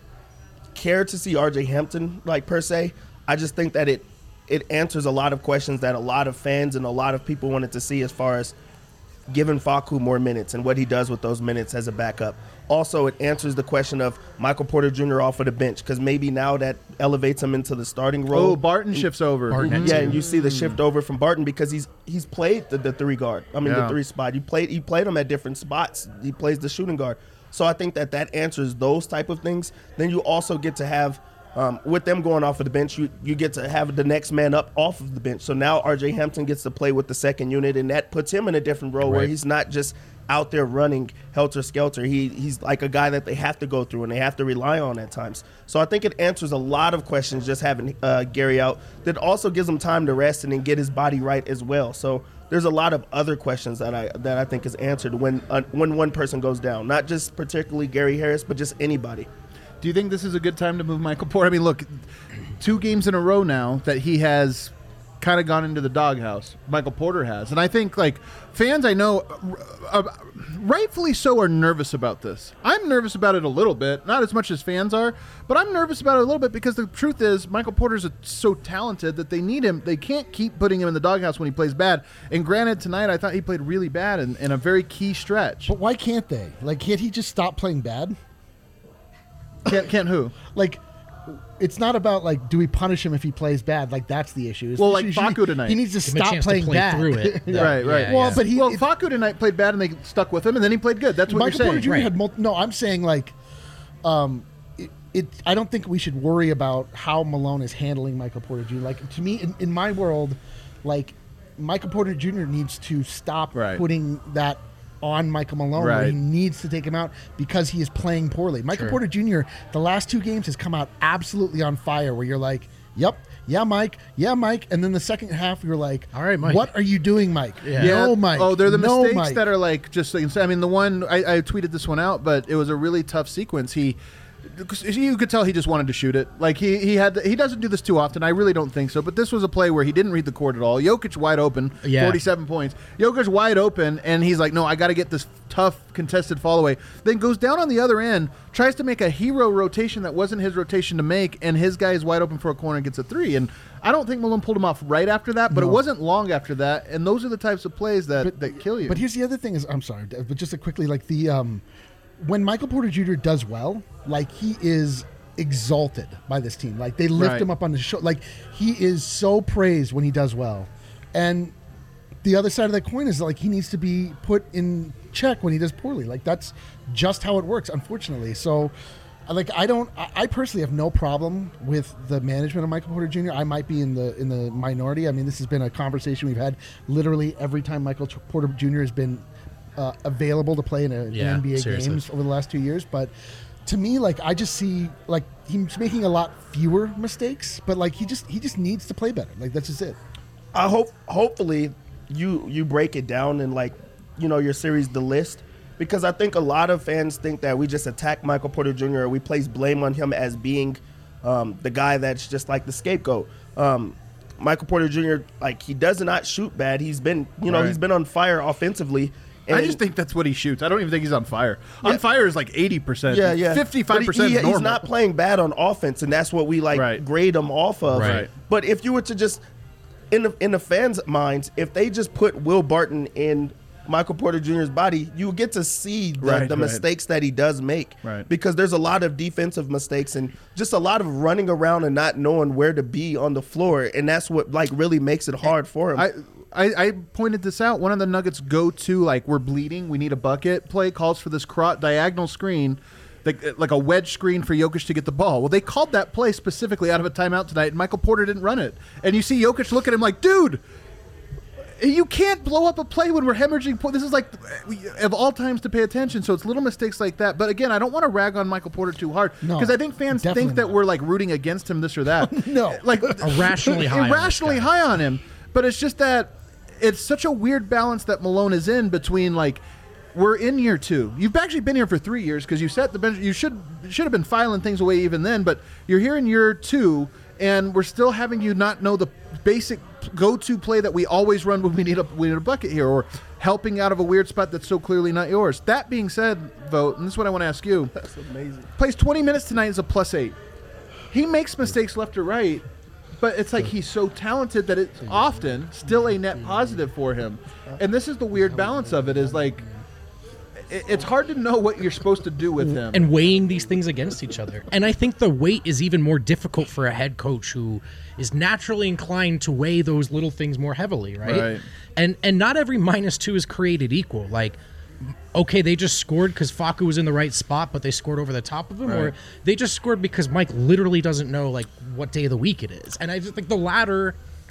care to see R J Hampton, like, per se. I just think that it it answers a lot of questions that a lot of fans and a lot of people wanted to see as far as giving Facu more minutes and what he does with those minutes as a backup. Also, it answers the question of Michael Porter Junior off of the bench because maybe now that elevates him into the starting role.
Oh, Barton shifts over.
Barton at
Yeah,
two.
and you see the shift over from Barton because he's he's played the, the three guard. I mean,
Yeah.
the three spot. You played he played him at different spots. He plays the shooting guard. So I think that that answers those type of things. Then you also get to have um, with them going off of the bench, you you get to have the next man up off of the bench. So now R J Hampton gets to play with the second unit, and that puts him in a different role where
Right.
he's not just out there running helter skelter. He he's like a guy that they have to go through and they have to rely on at times. So I think it answers a lot of questions just having uh, Gary out. That also gives him time to rest and then get his body right as well. So there's a lot of other questions that I that I think is answered when uh, when one person goes down, not just particularly Gary Harris, but just anybody.
Do you think this is a good time to move Michael Porter? I mean, look, two games in a row now that he has kind of gone into the doghouse. Michael Porter has. And I think, like, fans I know, uh, rightfully so, are nervous about this. I'm nervous about it a little bit, not as much as fans are, but I'm nervous about it a little bit because the truth is Michael Porter's a, so talented that they need him. They can't keep putting him in the doghouse when he plays bad. And granted, tonight I thought he played really bad in, in a very key stretch.
But why can't they? Like, can't he just stop playing bad?
Can't, can't who?
Like, it's not about, like, do we punish him if he plays bad? Like, that's the issue. It's
Well,
the
like
issue-
Facu tonight.
He needs to
Give him a
stop
chance to
playing
play
bad.
through it.
Yeah.
Right, right.
Yeah,
Well,
yeah.
but he,
Well,
it-
Facu tonight played bad and they stuck with him, and then he played good. That's what
Michael
you're
Porter
saying.
Junior
Right.
had multi- no. I'm saying, like, um, it, it. I don't think we should worry about how Malone is handling Michael Porter Junior Like, to me, in, in my world, like, Michael Porter Junior needs to stop
Right.
putting that on Michael Malone, where
Right.
he needs to take him out because he is playing poorly. Michael
Sure.
Porter Junior, the last two games has come out absolutely on fire, where you're like, yep, yeah, Mike, yeah, Mike. And then the second half, you're like,
All right, Mike.
what are you doing, Mike?
Yeah.
No, Mike.
Oh, they're the
no,
mistakes
Mike.
that are like just. Like, I mean, the one I, I tweeted this one out, but it was a really tough sequence. He, you could tell he just wanted to shoot it. Like he he had he doesn't do this too often. I really don't think so. But this was a play where he didn't read the court at all. Jokic wide open,
Yeah.
forty-seven points. Jokic wide open, and he's like, no, I got to get this tough contested fall away. Then goes down on the other end, tries to make a hero rotation that wasn't his rotation to make, and his guy is wide open for a corner and gets a three. And I don't think Malone pulled him off right after that, but
No.
it wasn't long after that. And those are the types of plays that, that kill you.
But here's the other thing: is I'm sorry, but just to quickly, like the um, when Michael Porter Junior does well, like he is exalted by this team. Like they lift
Right.
him up on the show. Like he is so praised when he does well, and the other side of that coin is like he needs to be put in check when he does poorly. Like that's just how it works, unfortunately. So. Like I don't, I I personally have no problem with the management of Michael Porter Junior I might be in the in the minority. I mean, this has been a conversation we've had literally every time Michael T- Porter Junior has been uh, available to play in, a, in
Yeah,
N B A
seriously.
games over the last two years. But to me, like I just see like he's making a lot fewer mistakes, but like he just he just needs to play better. Like that's just it.
I hope hopefully you you break it down in like you know your series the list, because I think a lot of fans think that we just attack Michael Porter Junior or we place blame on him as being um, the guy that's just like the scapegoat. Um, Michael Porter Junior like he does not shoot bad. He's been you know
Right.
he's been on fire offensively.
I
And-
just think that's what he shoots. I don't even think he's on fire.
Yeah.
On fire is like eighty percent.
Yeah, yeah.
fifty-five
But
percent
he,
is
he-
normal.
He's not playing bad on offense, and that's what we like
Right.
grade him off of.
Right.
But if you were to just in the in the fans' minds, if they just put Will Barton in Michael Porter Junior's body, you get to see the,
Right,
the
right.
mistakes that he does make.
Right.
Because there's a lot of defensive mistakes and just a lot of running around and not knowing where to be on the floor, and that's what like really makes it hard for him.
I, I, I pointed this out. One of the Nuggets go to like we're bleeding, we need a bucket play calls for this cro- diagonal screen, like, like a wedge screen for Jokic to get the ball. Well, they called that play specifically out of a timeout tonight, and Michael Porter didn't run it. And you see Jokic look at him like, dude, you can't blow up a play when we're hemorrhaging. Po- This is like of all times to pay attention. So it's little mistakes like that. But again, I don't want to rag on Michael Porter too hard
No,
because I think fans
definitely
think that
not.
we're like rooting against him, this or that.
No.
like
Irrationally high on this
irrationally
guy.
high on him. But it's just that it's such a weird balance that Malone is in between like. We're in year two. You've actually been here for three years because you set the bench. You should should have been filing things away even then. But you're here in year two, and we're still having you not know the basic go-to play that we always run when we need a we need a bucket here, or helping out of a weird spot that's so clearly not yours. That being said, Vote, and this is what I want to ask you.
that's amazing.
Plays twenty minutes tonight as a plus eight. He makes mistakes left or right, but it's like he's so talented that it's often still a net positive for him. And this is the weird balance of it is like it- it's hard to know what you're supposed to do with him.
and weighing these things against each other. And I think the weight is even more difficult for a head coach who is naturally inclined to weigh those little things more heavily, right?
Right.
And and not every minus two is created equal. Like, okay, they just scored because Facu was in the right spot, but they scored over the top of him, or
Right.
they just scored because Mike literally doesn't know like what day of the week it is. And I just think the latter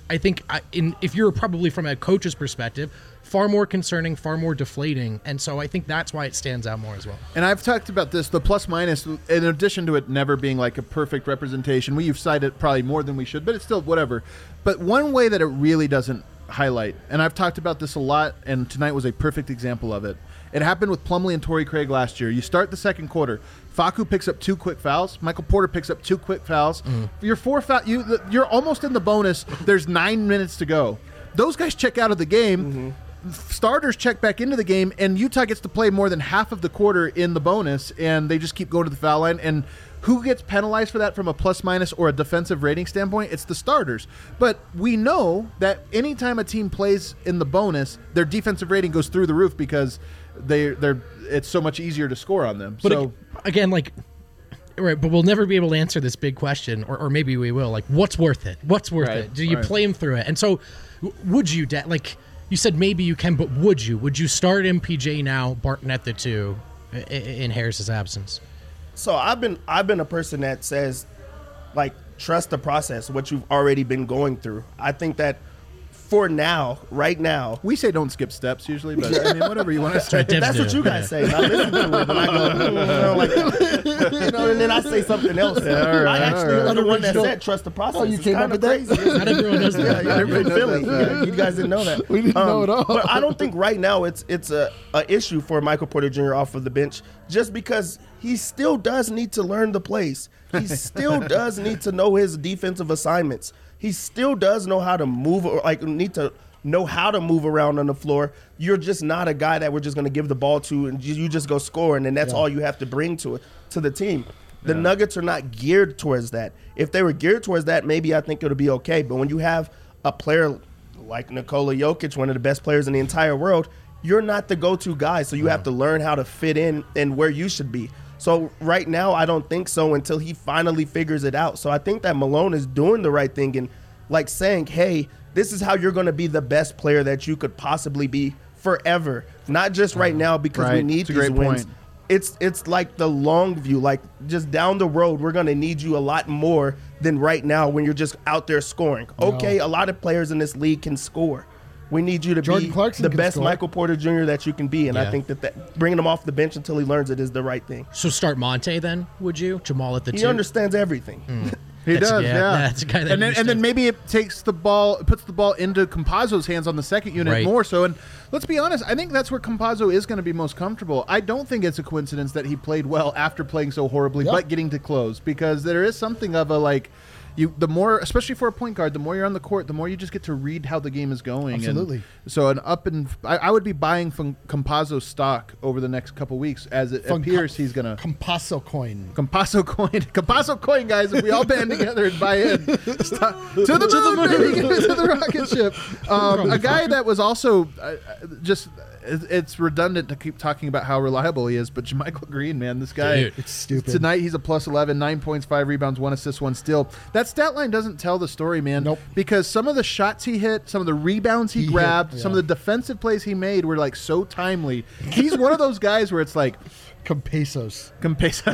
I think I, in if you're probably from a coach's perspective, far more concerning, far more deflating, and so I think that's why it stands out more as well.
And I've talked about this, the plus minus, in addition to it never being like a perfect representation. We've cited probably more than we should, but it's still whatever. But one way that it really doesn't highlight, and I've talked about this a lot, and tonight was a perfect example of it. It happened with Plumlee and Torrey Craig last year. You start the second quarter. Facu picks up two quick fouls. Michael Porter picks up two quick fouls. Mm. You're four foul. You you're almost in the bonus. There's nine minutes to go. Those guys check out of the game. Mm-hmm. Starters check back into the game, and Utah gets to play more than half of the quarter in the bonus, and they just keep going to the foul line. And who gets penalized for that from a plus minus or a defensive rating standpoint? It's the starters. But we know that anytime a team plays in the bonus, their defensive rating goes through the roof because they they're it's so much easier to score on them.
But
so
again, like, right, but we'll never be able to answer this big question, or, or maybe we will. Like, what's worth it? What's worth
right,
it? Do you
right.
play him through it? And so, would you, da- like you said, maybe you can, but would you? Would you start M P J now, Barton at the two, in, in Harris's absence?
So I've been I've been a person that says, like, trust the process, what you've already been going through. I think that for now, right now,
we say don't skip steps usually, but I mean, whatever you want to say.
Devs
that's
do.
what you guys
Yeah.
say. And I listen to it, and I go, mm, you know, like, you know, and then I say something else.
Yeah, all right,
I actually
all
was the
right.
one that
Original-
said trust the process.
Oh, you
It's
came up
kinda
with that?
crazy, isn't
Not
it?
everyone knows
Yeah,
that.
yeah, you're in
knows
Philly.
that.
Yeah, you guys didn't know that.
We didn't know at all.
But I don't think right now it's it's a, a issue for Michael Porter Junior off of the bench, just because he still does need to learn the plays. He still does need to know his defensive assignments. He still does know how to move, or like need to know how to move around on the floor. You're just not a guy that we're just going to give the ball to and you just go score, and then that's
Yeah.
all you have to bring to it to the team. The yeah. Nuggets are not geared towards that. If they were geared towards that, maybe I think it would be okay. But when you have a player like Nikola Jokic, one of the best players in the entire world, you're not the go-to guy. So you have to learn how to fit in and where you should be. So right now, I don't think so until he finally figures it out. So I think that Malone is doing the right thing and like saying, hey, this is how you're going to be the best player that you could possibly be forever. Not just right now because
Right.
we need
It's a
these
great
wins.
point.
It's it's like the long view, like just down the road, we're going to need you a lot more than right now when you're just out there scoring. Okay, a lot of players in this league can score. We need you to
Jordan
be
Clarkson
the
can
best
score.
Michael Porter Junior that you can be, and
Yeah.
I think that, that bringing him off the bench until he learns it is the right thing.
So start Monte then, would you? Jamal at the
He
two?
understands everything.
He
That's-
does,
yeah,
yeah.
that's a guy that
and then, and then
understands.
maybe it takes the ball, puts the ball into Campazzo's hands on the second unit
Right.
more so. And let's be honest, I think that's where Campazzo is going to be most comfortable. I don't think it's a coincidence that he played well after playing so horribly,
Yep.
but getting to close, because there is something of a like. You, the more, especially for a point guard, the more you're on the court, the more you just get to read how the game is going. And
Absolutely.
so an up and I, I would be buying from Campazzo stock over the next couple weeks as it
From
appears
Com-
he's going to.
Compasso coin.
Campasso coin, Campasso coin, guys! If we all band together and buy in, Stop. to the moon, baby, to the rocket ship. Um, a guy that was also uh, just. It's redundant to keep talking about how reliable he is, but JaMychal Green, man, this guy.
Dude,
it's stupid.
Tonight he's a plus eleven, nine points, five rebounds, one assist, one steal. That stat line doesn't tell the story, man.
Nope.
Because some of the shots he hit, some of the rebounds he,
He hit,
grabbed,
yeah.
some of the defensive plays he made were like so timely. He's one of those guys where it's like.
Compasos.
Compesa.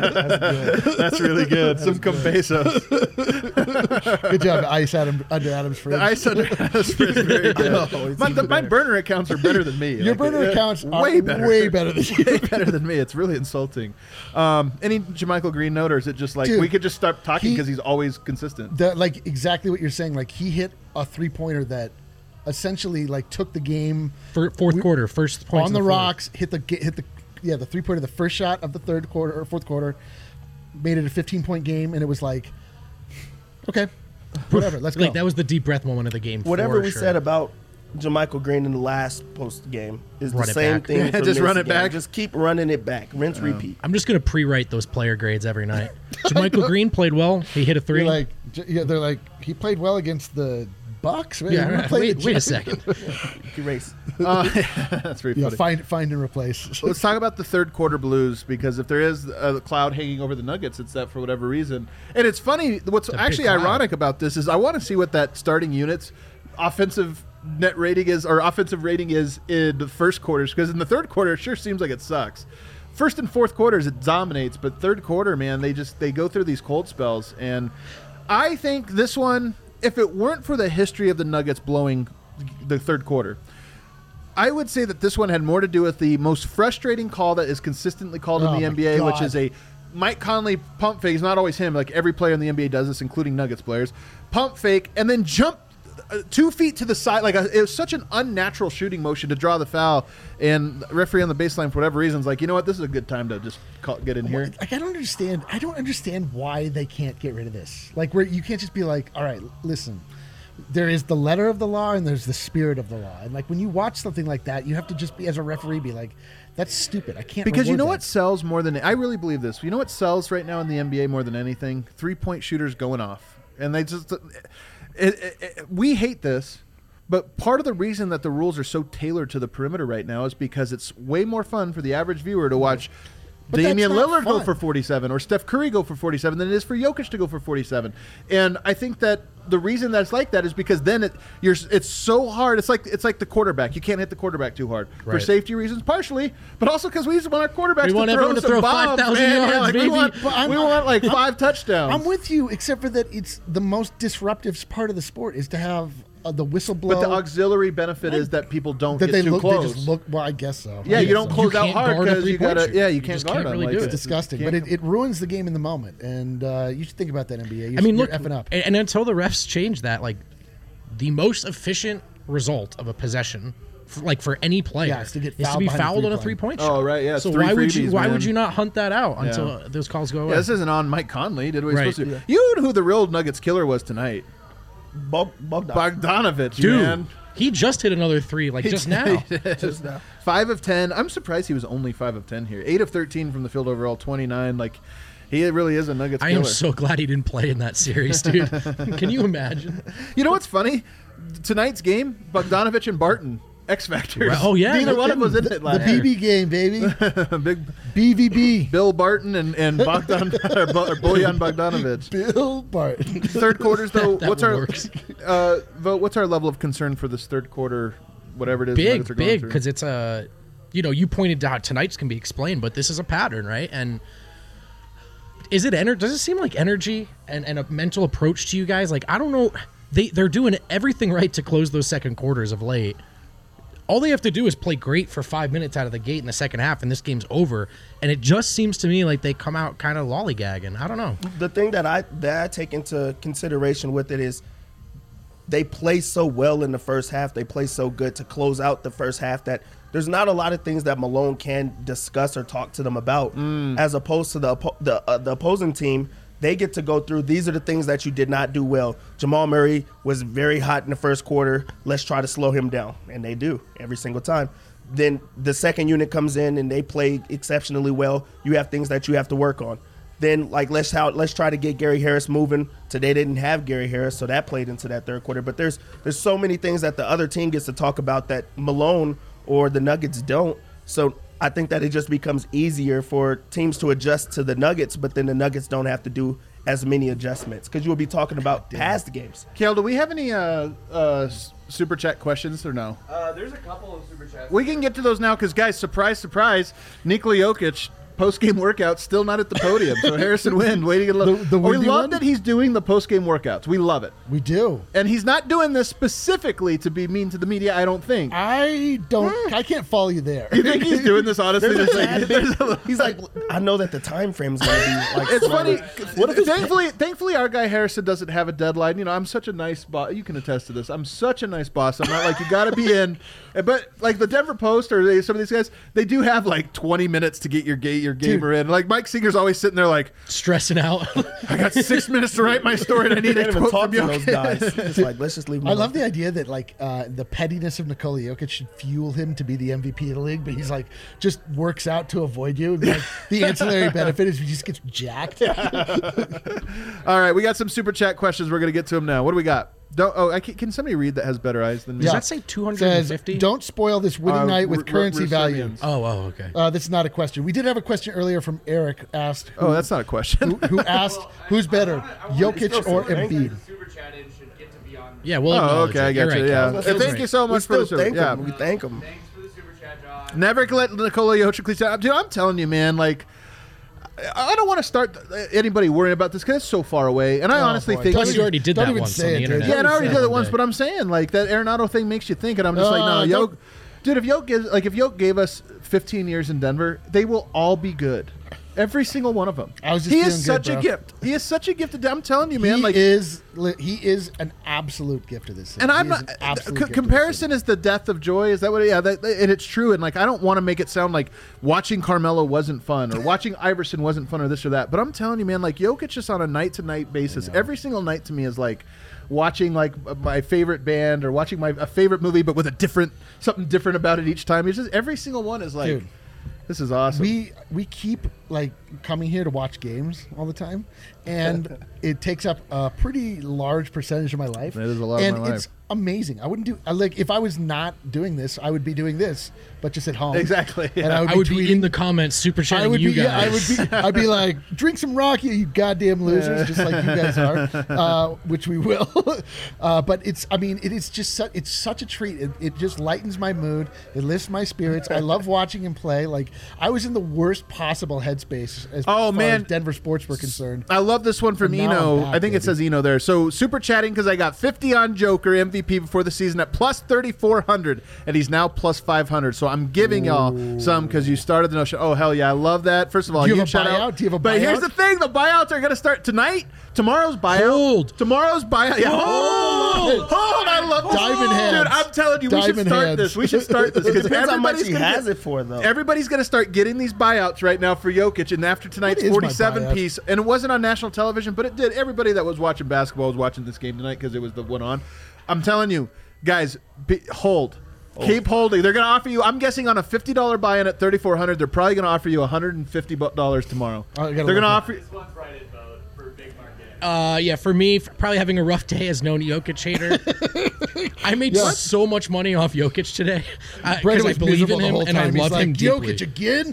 That's, That's really good. Some Compesos.
Good job, Ice Adam, under Adam's fridge.
The ice under Adam's fridge is very good.
Oh, it's
my,
even
the, my
better.
burner accounts are better than me.
Your
Like,
burner
uh,
accounts are
way better.
way better than you.
Way better than me. It's really insulting. Um, any JaMychal Green note, or is it just like
Dude,
we could just start talking
he-
because he's always consistent?
The, like exactly what you're saying. Like he hit a three pointer that essentially like took the game
Fir- fourth
We-
quarter, first points
on
in
the
fourth.
rocks. Hit the hit the yeah the three pointer, the first shot of the third quarter or fourth quarter, made it a fifteen point game, and it was like, okay, whatever, let's go.
Like that was the deep breath moment of the game.
Whatever
for
we
sure.
said about JaMychal Green in the last post game is
Run
the
it
same
back.
thing.
Yeah,
for
just
this
run it
game.
back.
Just keep running it back. Rinse, repeat.
I'm just gonna pre-write those player grades every night. JaMychal Green played well. He hit a three.
You're like, j- yeah, they're like he played well against the Bucks. Wait,
yeah,
who
right.
played
wait,
the
wait a
Jazz?
second.
Erase.
Uh, that's very
Yeah,
funny.
find find and replace.
Let's talk about the third quarter blues, because if there is a cloud hanging over the Nuggets, it's that for whatever reason. And it's funny, what's
a big
actually
cloud.
ironic about this is I want to see what that starting unit's offensive net rating is, or offensive rating is in the first quarters, because in the third quarter, it sure seems like it sucks. First and fourth quarters, it dominates, but third quarter, man, they just they go through these cold spells. And I think this one, if it weren't for the history of the Nuggets blowing the third quarter, I would say that this one had more to do with the most frustrating call that is consistently called
Oh
in the
my
N B A, which
God.
is a Mike Conley pump fake. It's not always him. Like every player in the N B A does this, including Nuggets players. Pump fake and then jump uh, two feet to the side. Like a, it was such an unnatural shooting motion to draw the foul. And the referee on the baseline, for whatever reason, is like, you know what? This is a good time to just call, get in here.
Like I don't understand. I don't understand why they can't get rid of this. Like where you can't just be like, all right, listen. There is the letter of the law and there's the spirit of the law. And like when you watch something like that, you have to just be as a referee be like, that's stupid. I can't
Because you
reward
know
that.
what sells more than I really believe this. You know what sells right now in the N B A more than anything? Three point shooters going off, and they just it, it, it, we hate this. But part of the reason that the rules are so tailored to the perimeter right now is because it's way more fun for the average viewer to watch
But
Damian
that's not
Lillard go
fun.
for forty-seven or Steph Curry go for forty-seven than it is for Jokic to go for forty-seven. And I think that the reason that's like that is because then it you're it's so hard. It's like it's like the quarterback. You can't hit the quarterback too hard for
Right.
safety reasons, partially, but also because we just want our quarterbacks
We
to
want
throw
everyone to
some
throw
bombs,
five thousand
man.
yards,
Yeah, like,
baby.
We want,
But I'm-
we want like five touchdowns.
I'm with you, except for that it's the most disruptive part of the sport is to have uh, the whistle blow.
but the auxiliary benefit is that people don't
that
get
they
too
look,
close.
they just look. Well, I guess so.
Yeah,
I
you
guess
don't
so.
close
You
out
can't
hard
guard a
because you
three-point
gotta.
shooter.
Yeah, you
You
can't
just
guard
can't
them.
really
like,
do it.
It's disgusting,
you
but
can't-
it, it ruins the game in the moment, and uh, you should think about that N B A. You
I mean,
you're
look,
effing up.
And, and until the refs change that, like the most efficient result of a possession, for, like for any player,
Yeah, is to get
is to
fouled
be
behind a
fouled on a
three-point.
three-point shot.
Oh, right, yeah, it's
So
three
why would you
freebies,
why
man.
would you not hunt that out
Yeah.
until uh, those calls go away?
Yeah, this isn't on Mike Conley. Did what he's
Right.
supposed to. You know who the real Nuggets killer was tonight?
Bog- Bogdan.
Bogdanovich,
Dude,
man.
he just hit another three, like just now.
Just now.
Five of ten. I'm surprised he was only five of ten here. Eight of thirteen from the field overall. Twenty-nine. Like, he really is a Nuggets
I
killer.
am so glad he didn't play in that series, dude. Can you imagine?
You know what's funny? Tonight's game, Bogdanovich and Barton, X Factors.
Right. Oh, yeah,
neither
no
one of them was in
the
it
the
last
B
year.
B game, baby.
Big
B V B.
Bill Barton and and Bogdan or, Bo, or Bojan Bogdanovich.
Bill Barton.
Third quarters though.
That
what's
one
our
works.
uh, vote? What's our level of concern for this third quarter? Whatever it is, the
Big,
Nuggets are going
big,
through?
because it's a, you know, you pointed out tonight's can be explained, but this is a pattern, right? And is it ener- Does it seem like energy and, and a mental approach to you guys? Like I don't know, they they're doing everything right to close those second quarters of late. All they have to do is play great for five minutes out of the gate in the second half, and this game's over. And it just seems to me like they come out kind of lollygagging. I don't know.
The thing that I that I take into consideration with it is they play so well in the first half. They play so good to close out the first half that there's not a lot of things that Malone can discuss or talk to them about. As opposed to the oppo- the uh, the opposing team, they get to go through. These are the things that you did not do well. Jamal Murray was very hot in the first quarter. Let's try to slow him down, and they do every single time. Then the second unit comes in and they play exceptionally well. You have things that you have to work on. Then like let's how let's try to get Gary Harris moving. Today they didn't have Gary Harris, so that played into that third quarter. But there's there's so many things that the other team gets to talk about that Malone or the Nuggets don't. So I think that it just becomes easier for teams to adjust to the Nuggets, but then the Nuggets don't have to do as many adjustments because you will be talking about past games.
Kale, do we have any uh, uh, s- super chat questions or no?
Uh, there's a couple of super chats.
We can get to those now because, guys, surprise, surprise, Nikola Jokic post-game workout still not at the podium. So Harrison Wind waiting a little.
The- the
Oh, we
windy
love
one?
that he's doing the post-game workouts. We love it.
We do.
And he's not doing this specifically to be mean to the media, I don't think.
I don't. I can't follow you there.
You think he's doing this honestly?
There's a
Just like-
tad
there's
bit-
a little-
He's like, I know that the time frame's going to be like.
It's
smaller.
funny.
What if it's
thankfully, thankfully, our guy Harrison doesn't have a deadline. You know, I'm such a nice boss. You can attest to this. I'm such a nice boss. I'm not like you got to be in. But like the Denver Post or they, some of these guys, they do have like twenty minutes to get your ga- your gamer in. Like Mike Singer's always sitting there like,
Stressing out.
I got six minutes to write my story and I need
They
a
can't even
quote
talk
from
to those
Jokic.
guys. It's like, let's just leave them
I
alone.
love the idea that like uh, the pettiness of Nikola Jokic should fuel him to be the M V P of the league, but he's like just works out to avoid you. And like the ancillary benefit is he just gets jacked.
All right, we got some super chat questions. We're gonna get to them now. What do we got? Don't, oh, I can, can somebody read that has better eyes than me?
Does
Yeah.
that say two hundred
Says,
fifty?
don't spoil this winning
Uh,
night with
R- R-
currency value.
Russinians.
Oh, oh, okay.
Uh, this is not a question. We did have a question earlier from Eric asked. Who,
Oh, that's not a question.
who, who asked who's better, Jokic or Embiid?
Super chatted should get to be on.
Yeah, well,
Oh, okay, I
You're
got you.
right,
Yeah,
Cal.
And thank you so
We
much for
still
the super.
thank
Yeah,
them. We thank them.
Thanks for the super chat, Josh.
never let Nikola Jokic. Dude, I'm telling you, man. Like, I don't want to start anybody worrying about this because it's so far away. And I
Oh,
honestly
boy.
think
Don't
Plus, you already did
Don't
that
even
once
say
on the
it, dude.
internet.
yeah, and I already did it
One
once,
day.
but I'm saying like that Arenado thing makes you think, and I'm just like, no,
Uh,
Yoke,
don't-
dude. If Yoke gives like if Yoke gave us fifteen years in Denver, they will all be good. Every single one of them.
I was just
he
feeling
is
good,
such a
bro.
gift. He is such a gift. I'm telling you, man.
he
like
is li- he is an absolute gift to this city.
And I'm
He is
not.
an absolute
c-
gift to this
comparison
city.
is the death of joy. Is that what? Yeah, that, and it's true. And like, I don't want to make it sound like watching Carmelo wasn't fun or watching Iverson wasn't fun or this or that. But I'm telling you, man, like Jokic just on a night to night basis, every single night to me is like watching like my favorite band or watching my a favorite movie, but with a different something different about it each time. It's just every single one is like,
Dude.
this is awesome.
We we keep like coming here to watch games all the time, and it takes up a pretty large percentage of my life.
It is a lot of
and
my
it's
life.
amazing. I wouldn't do I, like if I was not doing this, I would be doing this, but just at home.
Exactly,
And
yeah.
I would
I
be
would
tweeting.
be in the comments super
I
chatting
would
you
be,
guys.
yeah, I would be, I'd be like, drink some Rocky, you goddamn losers, just like you guys are, uh, which we will. uh, but it's, I mean, it is just, su- it's such a treat. It, it just lightens my mood. It lifts my spirits. I love watching him play. Like I was in the worst possible headspace as
Oh,
far
man.
as Denver sports were concerned.
I love this one from
And now
Eno.
I'm back,
I think it
baby.
says Eno there. So super chatting because I got fifty on Joker M V P before the season at plus thirty-four hundred, and he's now plus five hundred. So I'm giving y'all some because you started the notion. Oh hell yeah, I love that. First of all,
Do you have a
shout
buyout?
out.
Do you have a
But here's
buyout?
the thing: the buyouts are going to start tonight. Tomorrow's buyout.
Hold.
Tomorrow's buyout. Yeah. Hold. Hold. I love this.
Diamond hands.
Dude, I'm telling you, we should
Diamond
start
hands.
this. We should start this
It
because
depends how much
everybody's
he
gonna
has
get-
it for, though.
Everybody's going to start getting these buyouts right now for Jokic, and after tonight's
What is my
forty-seven
buyout?
piece, and it wasn't on national television, but it did. Everybody that was watching basketball was watching this game tonight because it was the one on. I'm telling you, guys, be, hold. Keep holding. They're going to offer you, I'm guessing on a fifty dollars buy-in at thirty-four hundred dollars, they're probably going to offer you one hundred fifty dollars tomorrow.
Oh, I
They're
gotta
going to
look
offer you.
This one's right at vote for big market.
Uh, yeah, for me, f- probably having a rough day as known Jokic hater. I made
Yeah.
so much money off Jokic today
Brandon
because I
was
believe
miserable
in
the
him
whole
and I
time. He's
love
like,
him deeply.
Jokic again?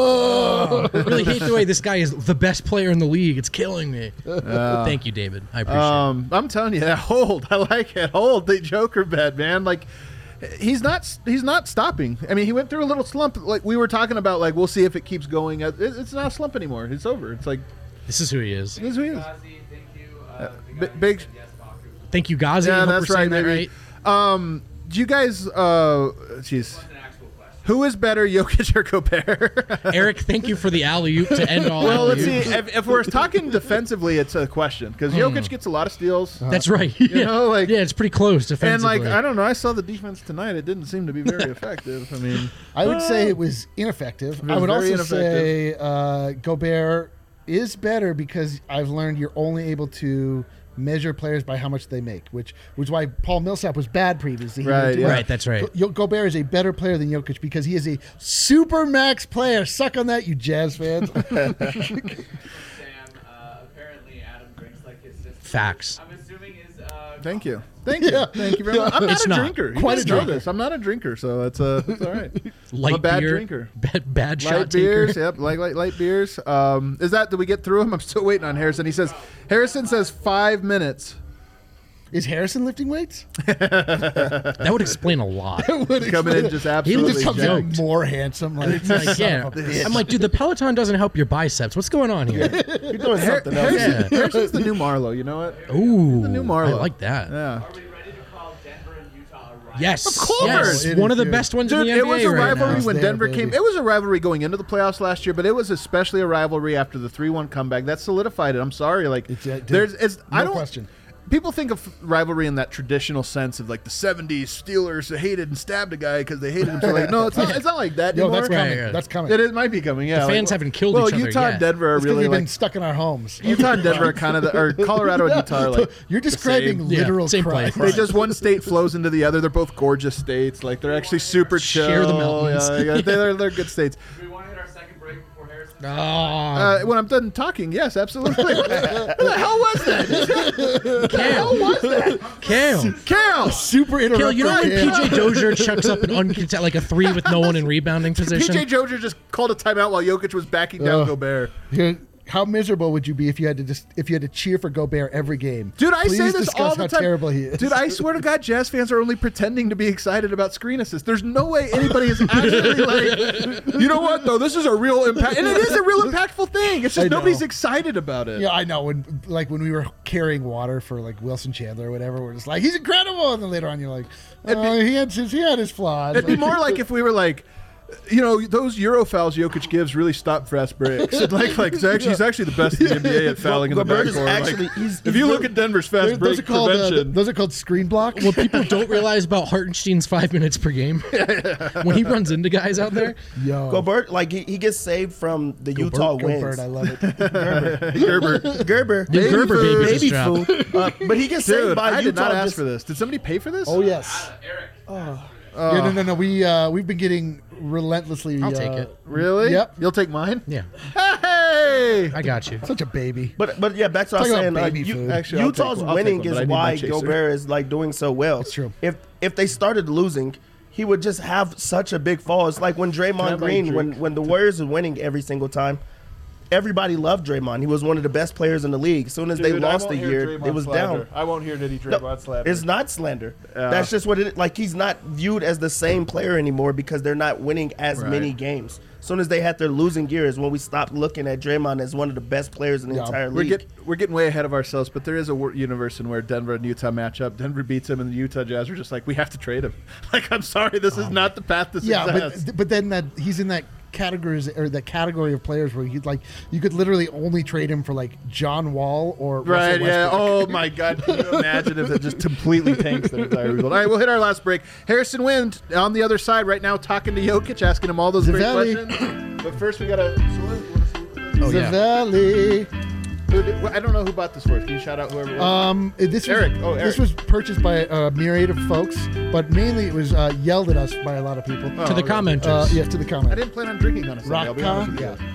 Oh.
I really hate the way this guy is the best player in the league. It's killing me. Thank you, David. I appreciate
Um, I'm telling you, that hold. I like it. Hold the Joker bet, man. Like, he's not. He's not stopping. I mean, he went through a little slump. Like we were talking about. Like we'll see if it keeps going. It- It's not a slump anymore. It's over. It's like
it. This is who he is.
this is who he is.
Ghazi, thank you. Uh, the
bi-
guy who
big-
said yes, Baku.
Thank you, Ghazi.
Yeah,
Hope
that's
we're saying
right,
that
baby.
right.
Um, do you guys? Uh, jeez,
That's an actual question.
who is better, Jokic or Gobert?
Eric, thank you for the alley oop to end all.
Well, let's see.
alley-oops.
If, if we're talking defensively, it's a question because Jokic gets a lot of steals.
That's right. yeah.
know, like-
yeah, it's pretty close
And
defensively.
like I don't know, I saw the defense tonight. It didn't seem to be very effective. I mean,
I would say it was ineffective.
was
I would
very
also say uh, Gobert is better because I've learned you're only able to measure players by how much they make, which which is why Paul Millsap was bad previously. He
Right,
didn't do
yeah.
it.
Right, that's right.
Go- Gobert is a better player than Jokic because he is a super max player. Suck on that, you Jazz fans.
Sam, uh, apparently Adam drinks like his sister.
Facts.
I'm assuming is. Uh,
thank you, thank you,
Yeah.
thank you very much. I'm not
It's
a
not.
drinker. You
Quite
guys
a
know
drinker.
this. I'm not a drinker, so it's uh, it's all right.
Light
I'm a bad
beer,
drinker.
Bad, bad shot
Light
taker.
beers, yep, like light, light beers. Um, is that? Did we get through them? I'm still waiting on Harrison. He says Harrison says five minutes.
Is Harrison lifting weights?
That would explain a lot.
Coming in just
He
absolutely
just comes
jacked.
in more handsome. Like,
It's like, yeah. I'm like, dude, the Peloton doesn't help your biceps. What's going on here?
You're doing
Har-
something else.
Harrison,
Yeah.
Harrison's the new Marlo. You know what?
Ooh,
The new Marlo.
I like that.
Yeah.
Are we ready to call Denver and Utah a rival?
Yes,
Of course.
yes,
It
one
is
of the
huge.
best ones
Dude,
in the
it
N B A
was a
right
rivalry
now.
when
There,
Denver
baby.
came. It was a rivalry going into the playoffs last year, but it was especially a rivalry after the three one comeback. That solidified it. I'm sorry, like
It's, uh, dude,
there's, it's, I
no
don't.
question.
People think of rivalry in that traditional sense of like the seventies Steelers that hated and stabbed a guy because they hated him. So like, no, it's not. It's not like that
Yo,
anymore.
that's coming.
Right, right.
That's coming.
It is, might be coming. Yeah,
The fans
like,
haven't killed
well,
each other
Utah
yet.
and Denver are
It's because
really
we've
like
been stuck in our homes.
Utah and Denver are kind of the, or Colorado and Utah are like
You're describing
same.
Yeah,
literal
same
crime.
place.
they just one state flows into the other. They're both gorgeous states. Like they're actually super chill.
Share the mountains.
Yeah, yeah, they're, they're good states.
Do we want to hit our second break before Harrison?
Oh,
Uh, when I'm done talking, yes, absolutely. What the hell was that?
Kale. Kale.
Cal!
Super
Kale,
interrupted.
you know when
Cam.
P J Dozier chucks up an uncontested, like a three with no one in rebounding
P
position?
J Dozier just called a timeout while Jokic was backing down
Ugh.
Gobert.
Here, how miserable would you be if you had to just if you had to cheer for Gobert every game?
Dude, I
Please
say this
discuss
all the
how
time.
terrible he is.
Dude, I swear to God, Jazz fans are only pretending to be excited about screen assists. There's no way anybody is actually like, you know what, though? This is a real impact. And it is a real impactful thing. It's
I
just
know.
nobody's excited about it.
Yeah, I know. When like when we were carrying water for like Wilson Chandler or whatever, we're just like, he's incredible, and then later on, you're like, oh, he had his he had his flaws.
It'd be more like if we were like, you know, those Euro fouls Jokic gives really stop fast breaks. And like, like he's actually, he's actually the best in the N B A at fouling in the
Gobert is
backcourt.
actually-
Like,
he's-
if
he's
you look
really-
at Denver's fast
those
break
are called uh,
prevention,
those are called screen blocks.
What people don't realize about Hartenstein's five minutes per game when he runs into guys out there.
Yo,
Gobert, like he, he gets saved from the
Gobert,
Utah
Gobert,
wins.
I love it.
Gerber.
Gerber,
The Gerber
food,
babies
baby
drop.
food. Uh, but he gets saved
Dude,
by
I did
Utah.
not ask
just-
for this. Did somebody pay for this?
Oh yes.
Eric.
Yeah, no, no, no. We uh, we've been getting relentlessly.
I'll
uh,
take it.
Really?
Yep.
You'll take mine?
Yeah,
Hey!
I got you.
Such a baby.
But but yeah, back to what I was
Talking
saying.
about
Uh,
baby
U-
food.
Actually, I'll
Utah's
take one. I'll
winning
take one, but I
is
need my
why
chaser.
Gobert is like doing so well.
It's true.
If if they started losing, he would just have such a big fall. It's like when
Can I
Draymond
have my
Green, when
drink?
when the Warriors were winning every single time, everybody loved Draymond. He was one of the best players in the league. As soon as they
Dude, I
lost a
won't hear
year,
Draymond
it was
slander.
down.
I won't hear Nitty
No,
Draymond slander.
it's not slander.
Yeah.
That's just what it is. Like he's not viewed as the same player anymore because they're not winning as
Right.
many games. As soon as they had their losing years, when we stopped looking at Draymond as one of the best players in the
Yeah.
entire
We're,
league.
get, we're getting way ahead of ourselves, but there is a wor- universe in where Denver and Utah match up. Denver beats him, and the Utah Jazz are just like, we have to trade him. Like, I'm sorry, this is not the path to
Yeah,
success.
but but then that he's in that categories or that category of players where he'd like you could literally only trade him for like John Wall or
Right,
Russell
yeah.
Westbrook.
Oh, my God. Can you imagine if it just completely tanks the entire rebuild? All right, we'll hit our last break. Harrison Wind on the other side right now talking to Jokic, asking him all those great
Zavelli.
questions. But first, we got to...
Oh, yeah.
Zavelli.
I don't know who bought this for us. Can you shout out whoever it was?
Um, this
Eric.
was
Oh,
this
Eric.
was purchased by a myriad of folks, but mainly it was uh, yelled at us by a lot of people.
Oh,
To the
okay.
commenters.
Uh, yeah, to the
I
comment.
didn't plan on drinking on a Sunday, I'll be honest with
Rockcon,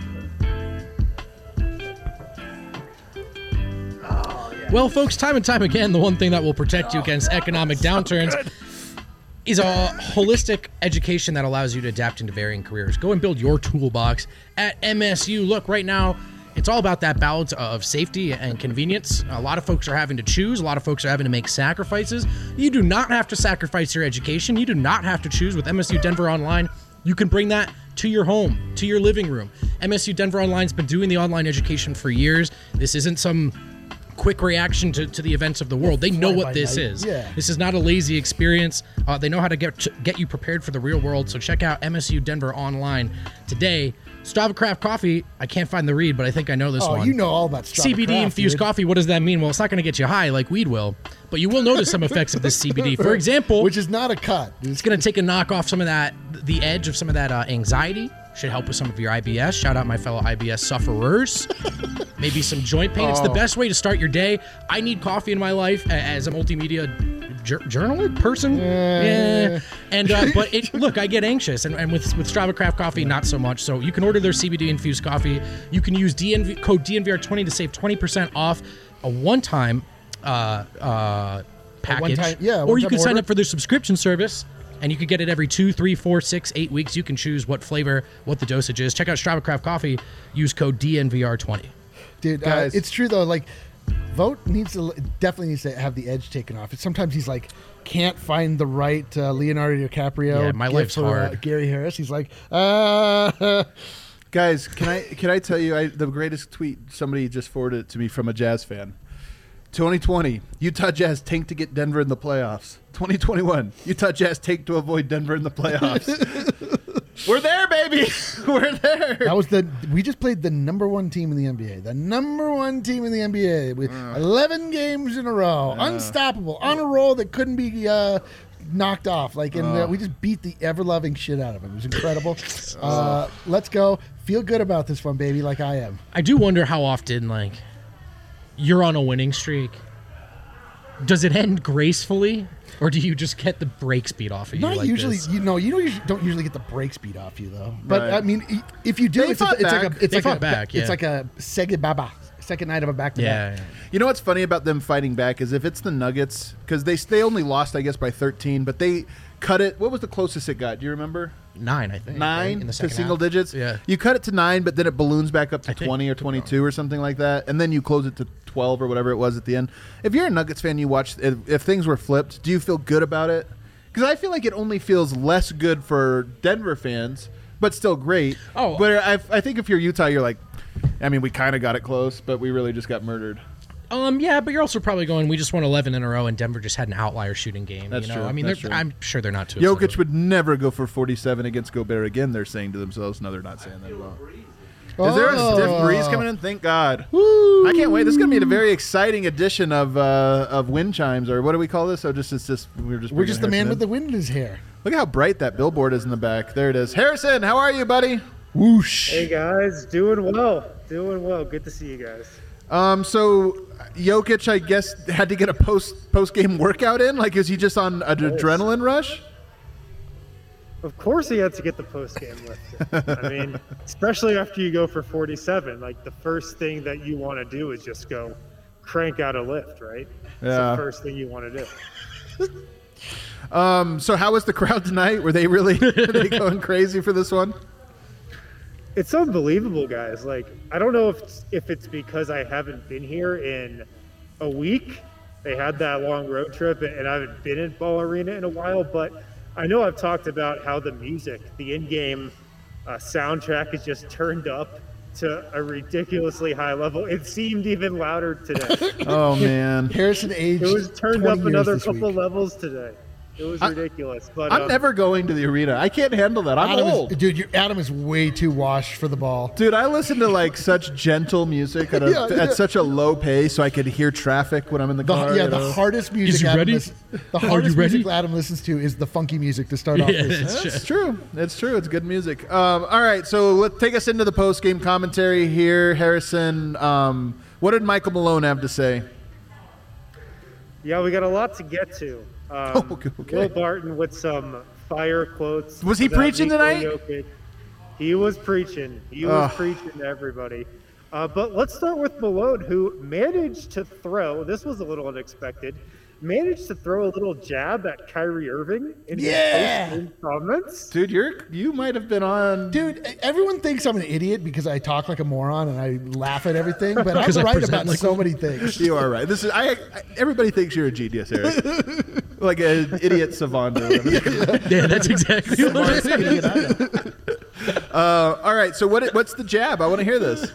you.
yeah.
Well, folks, time and time again, the one thing that will protect you against economic downturns is a holistic education that allows you to adapt into varying careers. Go and build your toolbox at M S U. Look, right now, it's all about that balance of safety and convenience. A lot of folks are having to choose. A lot of folks are having to make sacrifices. You do not have to sacrifice your education. You do not have to choose with M S U Denver Online. You can bring that to your home, to your living room. M S U Denver Online's been doing the online education for years. This isn't some quick reaction to, to the events of the world. They know
fly
what
by
this
night.
is.
Yeah.
This is not a lazy experience. Uh, they know how to get get you prepared for the real world. So check out M S U Denver Online today. Strava Craft Coffee. I can't find the read, but I think I know this
Oh,
one.
you know all about Strava
C B D
Craft,
infused
dude.
coffee. What does that mean? Well, it's not going to get you high like weed will, but you will notice some effects of this C B D. For example,
Which is not a cut.
it's going to take a knock off some of that, the edge of some of that uh, anxiety. Should help with some of your I B S. Shout out my fellow I B S sufferers. Maybe some joint pain. It's the
Oh.
best way to start your day. I need coffee in my life a- as a multimedia jur- journalist person. Yeah. And uh, but it, look, I get anxious, and, and with with Strava Craft Coffee, not so much. So you can order their C B D infused coffee. You can use D N V code D N V R twenty to save twenty percent off a one-time uh, uh, package.
one-time- yeah,
or you
one-time
can sign
order.
up for their subscription service. And you can get it every two, three, four, six, eight weeks. You can choose what flavor, what the dosage is. Check out Strava Craft Coffee. Use code D N V R twenty.
Dude, uh,
Guys.
it's true though. Like, Vote needs to definitely needs to have the edge taken off. Sometimes he's like can't find the right uh, Leonardo DiCaprio.
Yeah, my
gift
life's
for, uh,
hard.
Gary Harris. He's like, uh,
Guys, can I can I tell you I, the greatest tweet somebody just forwarded it to me from a Jazz fan. twenty twenty, Utah Jazz tank to get Denver in the playoffs. twenty twenty-one, Utah Jazz tank to avoid Denver in the playoffs. We're there, baby. We're there.
that was the we just played the number one team in the N B A. The number one team in the N B A with eleven games in a row, unstoppable, on a roll that couldn't be uh, knocked off. Like, and uh, we just beat the ever loving shit out of him. It was incredible. uh, let's go. Feel good about this one, baby, like I am.
I do wonder how often, like, you're on a winning streak. Does it end gracefully, or do you just get the brakes beat off of you?
Not
like
usually,
this?
you know, you don't usually, don't usually get the brakes beat off you though. But
Right.
I mean, i- if you do,
They
it's,
fought
a, it's like
back.
a, it's
They
like
fought
a,
back,
it's
yeah.
like a Sega Baba, second night of a back to
Yeah.
back.
yeah.
You know what's funny about them fighting back is if it's the Nuggets, because they they only lost, I guess, by thirteen, but they cut it. What was the closest it got? Do you remember?
Nine, I think. right?
Nine
in the
to
second
single
half.
digits.
Yeah.
You cut it to nine, but then it balloons back up to
I think-
twenty or twenty-two or something like that, and then you close it to twelve or whatever it was at the end. If you're a Nuggets fan, you watch. If, if things were flipped, do you feel good about it? Because I feel like it only feels less good for Denver fans, but still great.
Oh.
but I, I think if you're Utah, you're like, I mean, we kind of got it close, but we really just got murdered.
Um, yeah, but you're also probably going, we just won eleven in a row, and Denver just had an outlier shooting game.
That's
you know?
true,
I mean,
that's
they're-
true.
I'm sure they're not too
Jokic
excited.
would never go for forty-seven against Gobert again. They're saying to themselves. No, they're not saying that. Well. Is there a stiff breeze coming in? Thank God. I can't wait. This is going to be a very exciting edition of uh, of wind chimes, or what do we call this? Oh, just it's just we're just
We're just the
bringing
man with the
Harrison
wind in his hair.
in. Look at how bright that billboard is in the back. There it is. Harrison, how are you, buddy?
Whoosh.
Hey guys, doing well, doing well. Good to see you guys.
Um, so Jokic, I guess, had to get a post post game workout in. Like, is he just on an adrenaline rush?
Of course, he had to get the post game lift. I mean, especially after you go for forty-seven, like the first thing that you want to do is just go crank out a lift, right? It's
Yeah.
the first thing you want to do.
Um, so how was the crowd tonight? Were they really were they going crazy for this one?
It's unbelievable, guys. Like, I don't know if it's, if it's because I haven't been here in a week. They had that long road trip, and I haven't been in Ball Arena in a while. But I know I've talked about how the music, the in-game uh, soundtrack, is just turned up to a ridiculously high level. It seemed even louder today.
Oh man.
Harrison aged.
It was turned
twenty
up
years
another
this
couple
week.
levels today. It was
I-
ridiculous. But
I'm
um,
never going to the arena. I can't handle that. I'm
Adam
old.
is, dude, you Adam is way too washed for the ball.
Dude, I listen to like such gentle music at, a,
Yeah, yeah.
at such a low pace, so I could hear traffic when I'm in the
The,
car.
yeah,
you
the
know?
hardest music.
he
Adam
ready?
listen- the
Are you
hardest music
ready?
Adam listens to is the funky music to start off
Yeah,
with.
that's
It's true. It's true. It's good music. Um, all right, so let's take us into the post game commentary here, Harrison. Um, what did Michael Malone have to say?
yeah, we got a lot to get to. Um,
Oh, okay, okay.
Will Barton with some fire quotes.
Was he
about
preaching
Nikola
tonight?
Jokic. He was preaching. He was
Ugh.
preaching to everybody. Uh, but let's start with Malone, who managed to throw. This was a little unexpected. Managed to throw a little jab at Kyrie Irving in
Yeah.
his post-game comments.
Dude, you're you might have been on.
Dude, everyone thinks I'm an idiot because I talk like a moron and I laugh at everything, but I'm
'Cause I
right
present
about
like
so
one.
many things.
You are right. This is I. I everybody thinks you're a genius, Eric. Like an idiot savant. Or whatever.
Yeah, that's exactly what it is.
Uh, all right. So what? What's the jab? I want to hear this.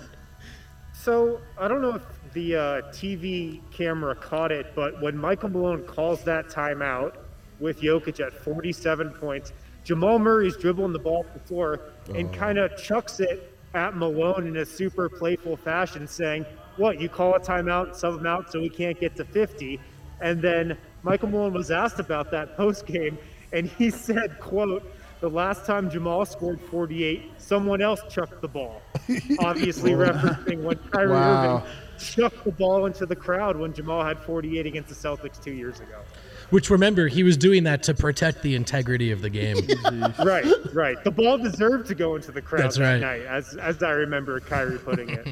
So I don't know if the uh, T V camera caught it, but when Michael Malone calls that timeout with Jokic at forty-seven points, Jamal Murray's dribbling the ball to the floor and kind of chucks it at Malone in a super playful fashion, saying, "What, you call a timeout and sub him out so we can't get to fifty?" And then Michael Malone was asked about that post game, and he said, "Quote." The last time Jamal scored forty-eight, someone else chucked the ball. Obviously referencing when Kyrie
Wow.
Irving chucked the ball into the crowd when Jamal had forty-eight against the Celtics two years ago.
Which, remember, he was doing that to protect the integrity of the game.
Right, right. The ball deserved to go into the crowd
That's
that
right.
night, as as I remember Kyrie putting it.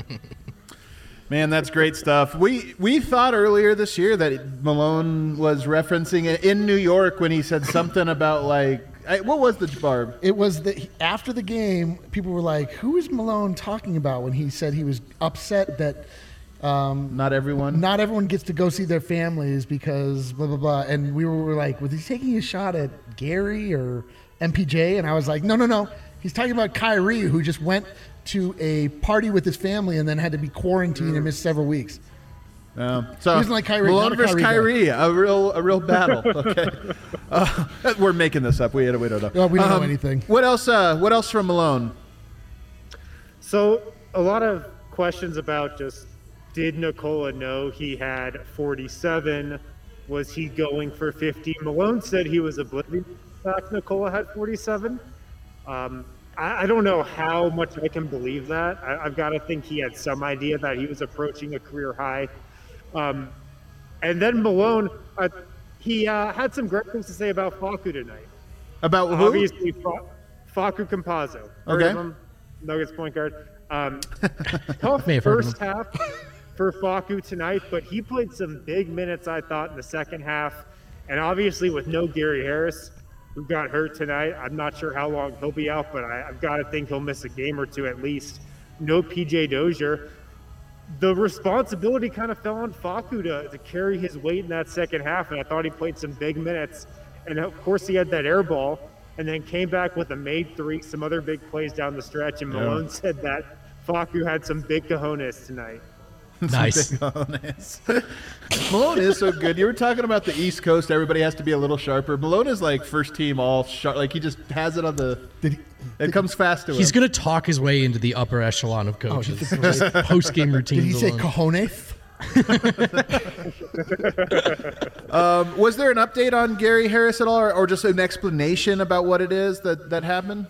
Man, that's great stuff. We we thought earlier this year that Malone was referencing it in New York when he said something about like I, what was the barb?
It was that after the game, people were like, "Who is Malone talking about?" When he said he was upset that
Not everyone.
not everyone gets to go see their families because blah blah blah. And we were like, "Was he taking a shot at Gary or M P J?" And I was like, "No, no, no. He's talking about Kyrie, who just went to a party with his family and then had to be quarantined and missed several weeks."
Um, so
He doesn't like Kyrie,
Malone
not a
versus
Kyrie
Kyrie, a real a real battle. Okay, uh, we're making this up. We we don't know.
Well, we don't know
Um,
anything.
What else? Uh, what else from Malone?
So a lot of questions about just did Nikola know he had forty-seven? Was he going for fifty? Malone said he was oblivious to the fact Nikola had forty-seven. Um, I, I don't know how much I can believe that. I, I've got to think he had some idea that he was approaching a career high. Um, and then Malone, uh, he uh, had some great things to say about Facu tonight.
About who?
Obviously, Fa- Facu Campazzo. Heard
Okay.
of him? Nuggets point guard. Um, tough
May have heard of
first half for Facu tonight, but he played some big minutes, I thought, in the second half. And obviously with no Gary Harris, who got hurt tonight, I'm not sure how long he'll be out, but I, I've got to think he'll miss a game or two at least. No P J Dozier. The responsibility kind of fell on Facu to, to carry his weight in that second half, and I thought he played some big minutes. And of course he had that air ball, and then came back with a made three, some other big plays down the stretch, and Malone yeah. said that Facu had some big cojones tonight.
Nice.
Malone is so good. You were talking about the East Coast. Everybody has to be a little sharper. Malone is like first team all sharp. Like he just has it on the. Did he, it did comes fast to him.
He's going to talk his way into the upper echelon of coaches. Oh, post game routines.
Did he say
alone.
cojones?
um, was there an update on Gary Harris at all, or, or just an explanation about what it is that, that happened?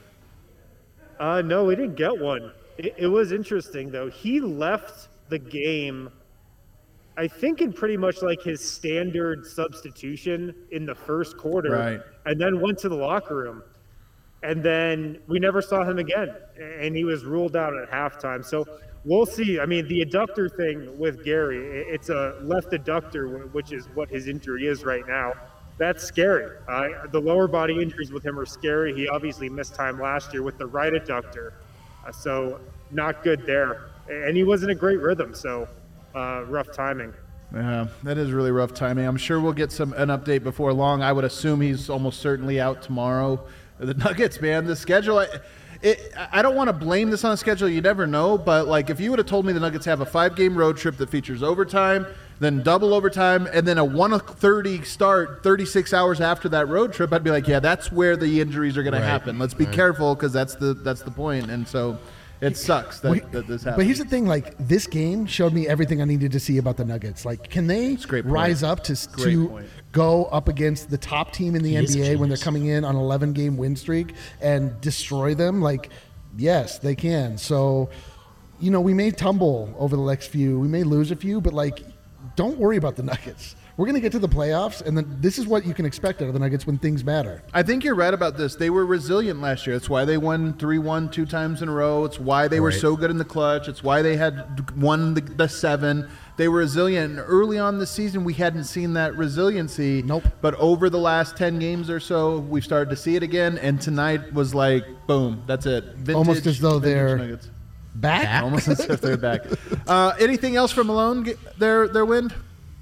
Uh, no, we didn't get one. It, it was interesting, though. He left the game, I think, in pretty much like his standard substitution in the first quarter,
right.
and then went to the locker room. And then we never saw him again, and he was ruled out at halftime. So we'll see. I mean, the adductor thing with Gary, it's a left adductor, which is what his injury is right now. That's scary. Uh, the lower body injuries with him are scary. He obviously missed time last year with the right adductor, uh, so not good there. And he wasn't a great rhythm, so uh, rough timing.
Yeah, that is really rough timing. I'm sure we'll get some an update before long. I would assume he's almost certainly out tomorrow. The Nuggets, man, the schedule. I, it, I don't want to blame this on the schedule. You never know, but like if you would have told me the Nuggets have a five-game road trip that features overtime, then double overtime, and then a one thirty start thirty-six hours after that road trip, I'd be like, yeah, that's where the injuries are going right. to happen. Let's be right. careful because that's the that's the point. And so. It sucks that,
well,
that this happened.
But here's the thing, like, this game showed me everything I needed to see about the Nuggets. Like, can they rise up to, to go up against the top team in the he N B A when they're coming in on an eleven-game win streak and destroy them? Like, yes, they can. So, you know, we may tumble over the next few. We may lose a few, but, like, don't worry about the Nuggets. We're going to get to the playoffs, and then this is what you can expect out of the Nuggets when things matter.
I think you're right about this. They were resilient last year. That's why they won three one two times in a row. It's why they right. were so good in the clutch. It's why they had won the, the seven. They were resilient. And early on this season, we hadn't seen that resiliency.
Nope.
But over the last ten games or so, we've started to see it again, and tonight was like, boom, that's it. Vintage,
Almost as though they're
Nuggets.
back?
back? Almost as if they're back. Uh, anything else from Malone, their, their win?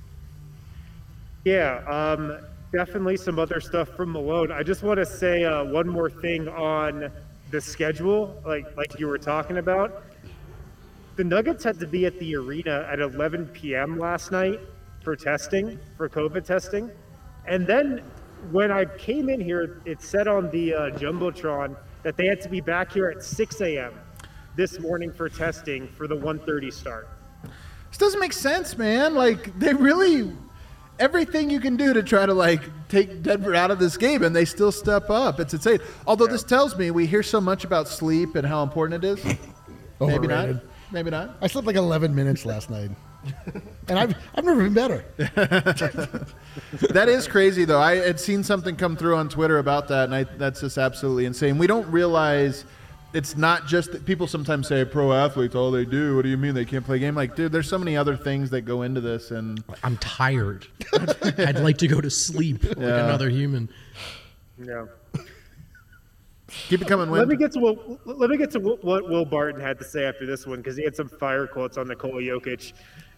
Yeah, um, definitely some other stuff from Malone. I just want to say uh, one more thing on the schedule, like like you were talking about. The Nuggets had to be at the arena at eleven p.m. last night for testing, for COVID testing. And then when I came in here, it said on the uh, Jumbotron that they had to be back here at six a.m. this morning for testing for the one thirty start.
This doesn't make sense, man. Like, they really... Everything you can do to try to, like, take Denver out of this game, and they still step up. It's insane. Although yeah. this tells me we hear so much about sleep and how important it is. Maybe not. Maybe not.
I slept like eleven minutes last night. And I've I've never been better.
That is crazy, though. I had seen something come through on Twitter about that, and I, that's just absolutely insane. We don't realize it's not just that people sometimes say pro athletes, all they do. What do you mean they can't play a game? Like, dude, there's so many other things that go into this. And
I'm tired. I'd like to go to sleep like
yeah.
another human.
Yeah.
Keep it coming, Win.
Let me get to what let me get to what Will Barton had to say after this one, because he had some fire quotes on Nikola Jokic.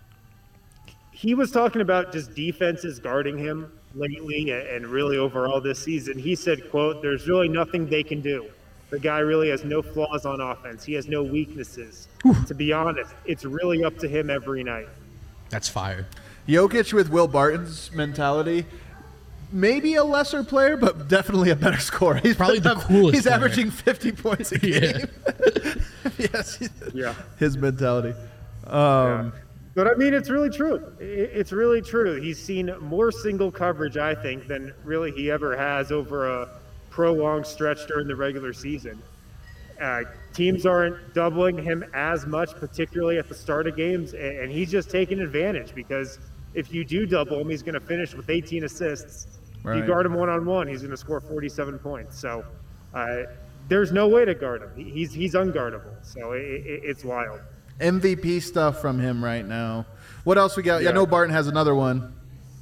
He was talking about just defenses guarding him lately and really overall this season. He said, quote, "There's really nothing they can do. The guy really has no flaws on offense. He has no weaknesses. To be honest, it's really up to him every night."
That's fire.
Jokic with Will Barton's mentality. Maybe a lesser player, but definitely a better scorer. He's
probably the coolest
He's
player.
averaging fifty points a game.
Yeah.
Yes.
Yeah.
His mentality. Um,
yeah. But, I mean, it's really true. It's really true. He's seen more single coverage, I think, than really he ever has over a prolonged stretch during the regular season. Uh, teams aren't doubling him as much, particularly at the start of games, and he's just taking advantage because if you do double him, he's going to finish with eighteen assists.
Right.
If you guard him one-on-one, he's going to score forty-seven points. So uh, there's no way to guard him. He's he's unguardable. So it, it, it's wild.
M V P stuff from him right now. What else we got? Yeah,
Yeah.
I know Barton has another one.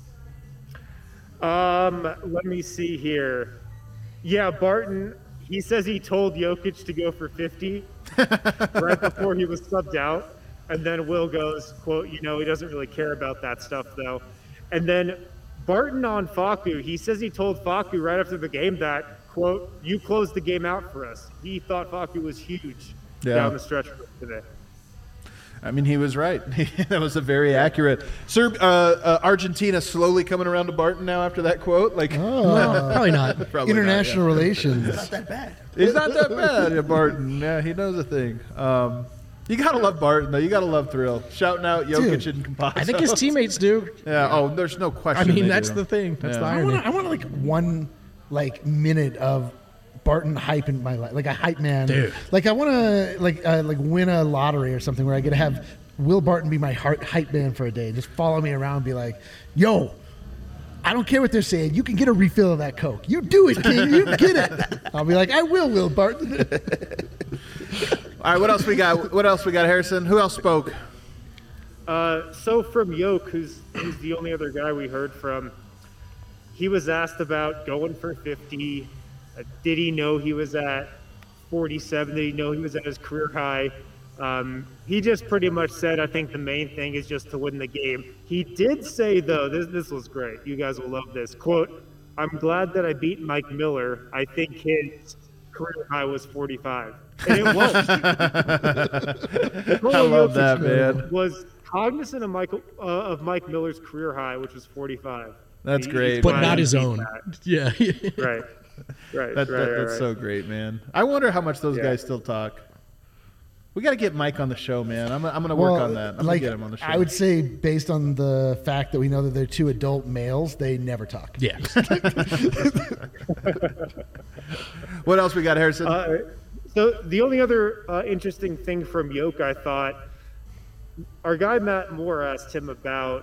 Um, let me see here. Yeah, Barton, he says he told Jokic to go for fifty right before he was subbed out. And then Will goes, quote, you know, he doesn't really care about that stuff, though. And then Barton on Facu, he says he told Facu right after the game that, quote, you closed the game out for us. He thought Facu was huge
Yeah.
down the stretch today.
I mean, he was right. That was a very accurate. Serb, uh, uh, Argentina slowly coming around to Barton now after that quote. Like,
Oh,
Probably not.
probably not,
international
yeah.
relations.
Not that bad.
He's not that bad, yeah, Barton. Yeah, he knows a thing. Um, you gotta love Barton though. You gotta love Thrill shouting out Jokic
Dude,
and Campazzo.
I think his teammates do.
Yeah. Oh, there's no
I
question.
mean,
they
that's
do.
the thing. That's
Yeah.
the
I
irony.
want I want like one like minute of Barton hype in my life, like a hype man.
Dude.
Like I want to like uh, like win a lottery or something where I get to have Will Barton be my heart hype man for a day. Just follow me around, and be like, "Yo, I don't care what they're saying. You can get a refill of that Coke. You do it, King. You get it." I'll be like, "I will, Will Barton."
All right. What else we got? What else we got, Harrison? Who else spoke?
Uh, so from Yoke, who's, who's the only other guy we heard from, he was asked about going for fifty. Uh, did he know he was at forty-seven? Did he know he was at his career high? Um, he just pretty much said, I think the main thing is just to win the game. He did say, though, this, this was great. You guys will love this. Quote, I'm glad that I beat Mike Miller. I think his career high was forty-five. And it was.
I love that, man.
Was cognizant of Michael uh, of Mike Miller's career high, which was forty-five.
That's
He-
great,
he's
But
man.
glad
not
he
his
beat
own.
that.
Yeah.
Right. Right.
That,
right,
that-
right,
that's
right.
so great, man. I wonder how much those
Yeah.
guys still talk. We got to get Mike on the show, man. I'm, I'm going to
Well,
work on that. I'm
like
going to get him on the show.
I would say, based on the fact that we know that they're two adult males, they never talk.
Yeah.
What else we got, Harrison?
Uh, so the only other uh, interesting thing from Yoke, I thought, our guy Matt Moore asked him about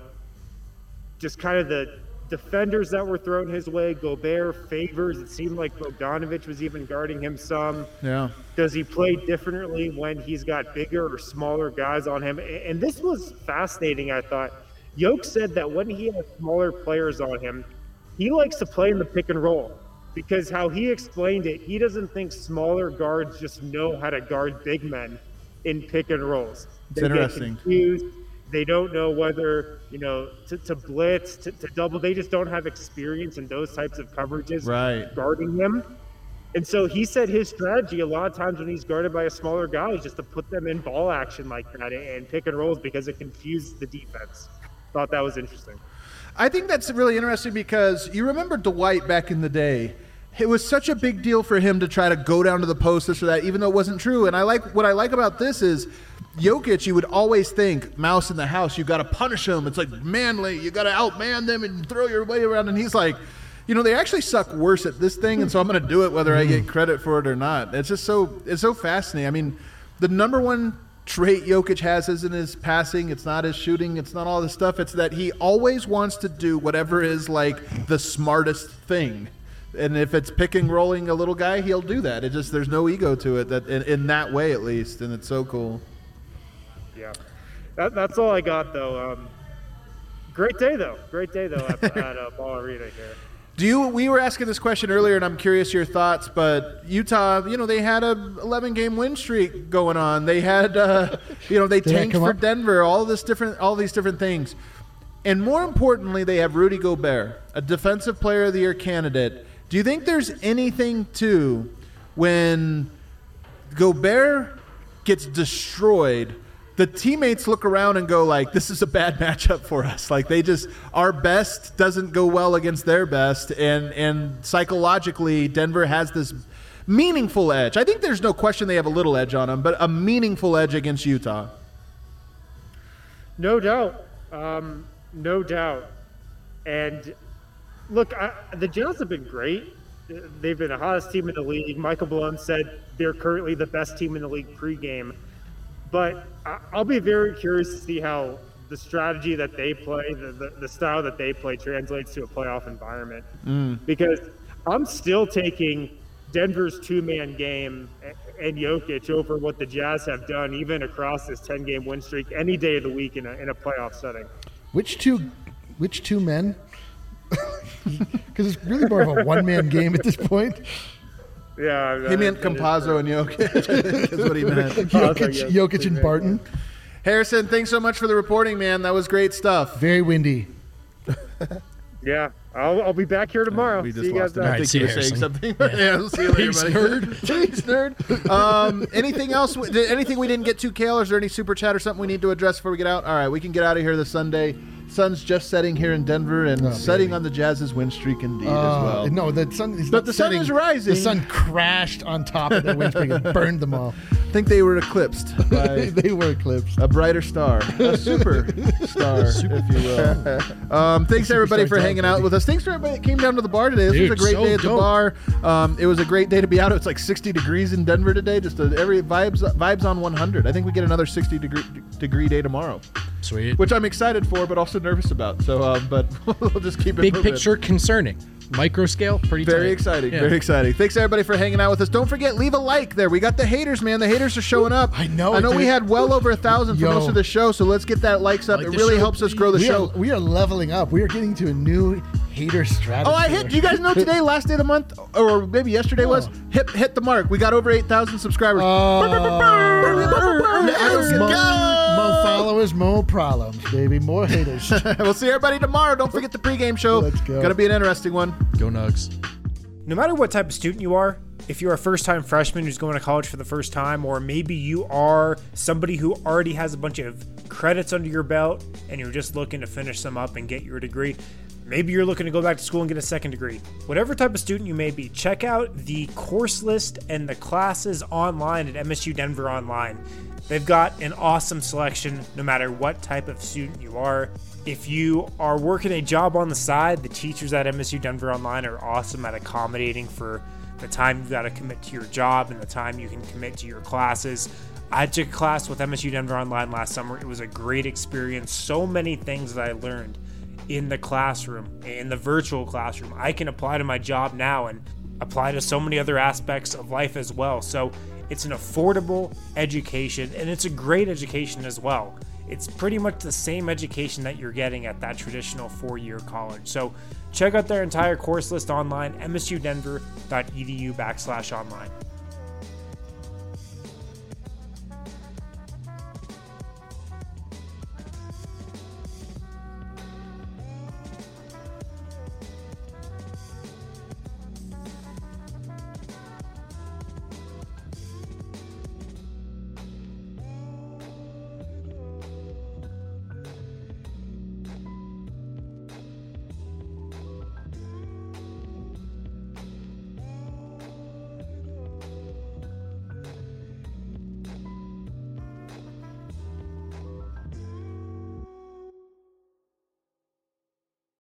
just kind of the defenders that were thrown his way. Gobert, Favors. It seemed like Bogdanovich was even guarding him some.
yeah.
Does he play differently when he's got bigger or smaller guys on him? A- And this was fascinating, I thought. Yoke said that when he has smaller players on him, he likes to play in the pick and roll. Because how he explained it, he doesn't think smaller guards just know how to guard big men in pick and rolls. They get
interesting.
confused. They don't know whether, you know, to, to blitz, to, to double. They just don't have experience in those types of coverages
Right.
guarding him. And so he said his strategy a lot of times when he's guarded by a smaller guy is just to put them in ball action like that and pick and rolls because it confuses the defense. Thought that was interesting.
I think that's really interesting because you remember Dwight back in the day. It was such a big deal for him to try to go down to the post, this or that, even though it wasn't true. And I like what I like about this is Jokic, you would always think, mouse in the house, you got to punish him. It's like manly. You got to outman them and throw your way around. And he's like, you know, they actually suck worse at this thing, and so I'm going to do it whether I get credit for it or not. It's just so it's so fascinating. I mean, the number one trait Jokic has isn't his passing, it's not his shooting, it's not all this stuff. It's that he always wants to do whatever is like the smartest thing. And if it's picking, rolling a little guy, he'll do that. It just there's no ego to it that in, in that way at least, and it's so cool.
Yeah. That, that's all I got, though. Um, great day, though. Great day, though, at, at uh, Ball Arena here.
Do you? We were asking this question earlier, and I'm curious your thoughts. But Utah, you know, they had a eleven game win streak going on. They had, uh, you know, they
Did that
tanked
come
for
up?
Denver. All this different, all these different things, and more importantly, they have Rudy Gobert, a Defensive Player of the Year candidate. Do you think there's anything to when Gobert gets destroyed? The teammates look around and go like, this is a bad matchup for us. Like they just, our best doesn't go well against their best. And, and psychologically, Denver has this meaningful edge. I think there's no question they have a little edge on them, but a meaningful edge against Utah.
No doubt. Um, no doubt. And look, I, the Jazz have been great. They've been the hottest team in the league. Michael Malone said they're currently the best team in the league pregame. But I- I'll be very curious to see how the strategy that they play, the, the, the style that they play translates to a playoff environment. Because I'm still taking Denver's two-man game a- and Jokic over what the Jazz have done, even across this ten-game win streak, any day of the week in a, in a playoff setting.
which two, which two men? Because it's really more of a one-man game at this point.
Yeah,
He meant Campazzo and Jokic. Is what he meant.
Jokic, Jokic and Barton.
Harrison, thanks so much for the reporting, man. That was great stuff.
Very windy.
Yeah, I'll, I'll be back here tomorrow.
We
See
just
you guys
lost him.
then.
I
All right,
think
see
you
you,
were saying
Harrison.
something. Yeah, we'll see you later,
Peace,
buddy.
nerd.
Peace, nerd. Um, anything else? Did anything we didn't get to, Kale? Is there any super chat or something we need to address before we get out? All right, we can get out of here this Sunday. Sun's just setting here in Denver and
Oh,
setting
baby.
on the Jazz's win streak indeed
Uh,
as well.
No, the sun is
But
not
the sun
setting.
is rising.
The sun crashed on top of the wind streak and burned them all.
I think they were eclipsed by
They were eclipsed.
a brighter star, a super star, if you will. Um, thanks everybody for
Superstar
hanging
dog,
out
baby.
with us. Thanks for everybody that came down to the bar today. This
Dude,
was a great
so
day at the
dope.
bar. Um, it was a great day to be out. It's like sixty degrees in Denver today. Just a, every vibes vibes on one hundred. I think we get another sixty degree degree day tomorrow,
Sweet.
which I'm excited for, but also nervous about. So, um, but we'll just keep it
Big
moving.
picture concerning. Micro scale, pretty
Very
tight.
exciting.
Yeah.
Very exciting. Thanks everybody for hanging out with us. Don't forget, leave a like there. We got the haters, man. The haters are showing up.
I know
I know
it,
we
dude.
had well over a thousand for
Yo.
most of the show, so let's get that likes up.
Like
it
the
really
show,
helps us grow the
we,
show.
are, we are leveling up. We are getting to a new hater strategy.
Oh, I hit. You guys know today, last day of the month, or maybe yesterday was
Oh.
hit hit the mark. We got over eight thousand subscribers.
Let's
go.
More followers, more problems, baby. More haters.
We'll see everybody tomorrow. Don't forget the pregame show.
Let's go.
Gonna be an interesting one.
Go Nugs.
No matter what type of student you are, if you're a first-time freshman who's going to college for the first time, or maybe you are somebody who already has a bunch of credits under your belt and you're just looking to finish them up and get your degree, maybe you're looking to go back to school and get a second degree. Whatever type of student you may be, check out the course list and the classes online at M S U Denver Online. They've got an awesome selection no matter what type of student you are. If you are working a job on the side, the teachers at M S U Denver Online are awesome at accommodating for the time you've got to commit to your job and the time you can commit to your classes. I took a class with M S U Denver Online last summer. It was a great experience. So many things that I learned in the classroom, in the virtual classroom, I can apply to my job now and apply to so many other aspects of life as well. So it's an affordable education, and it's a great education as well. It's pretty much the same education that you're getting at that traditional four-year college. So check out their entire course list online, msudenver.edu backslash online.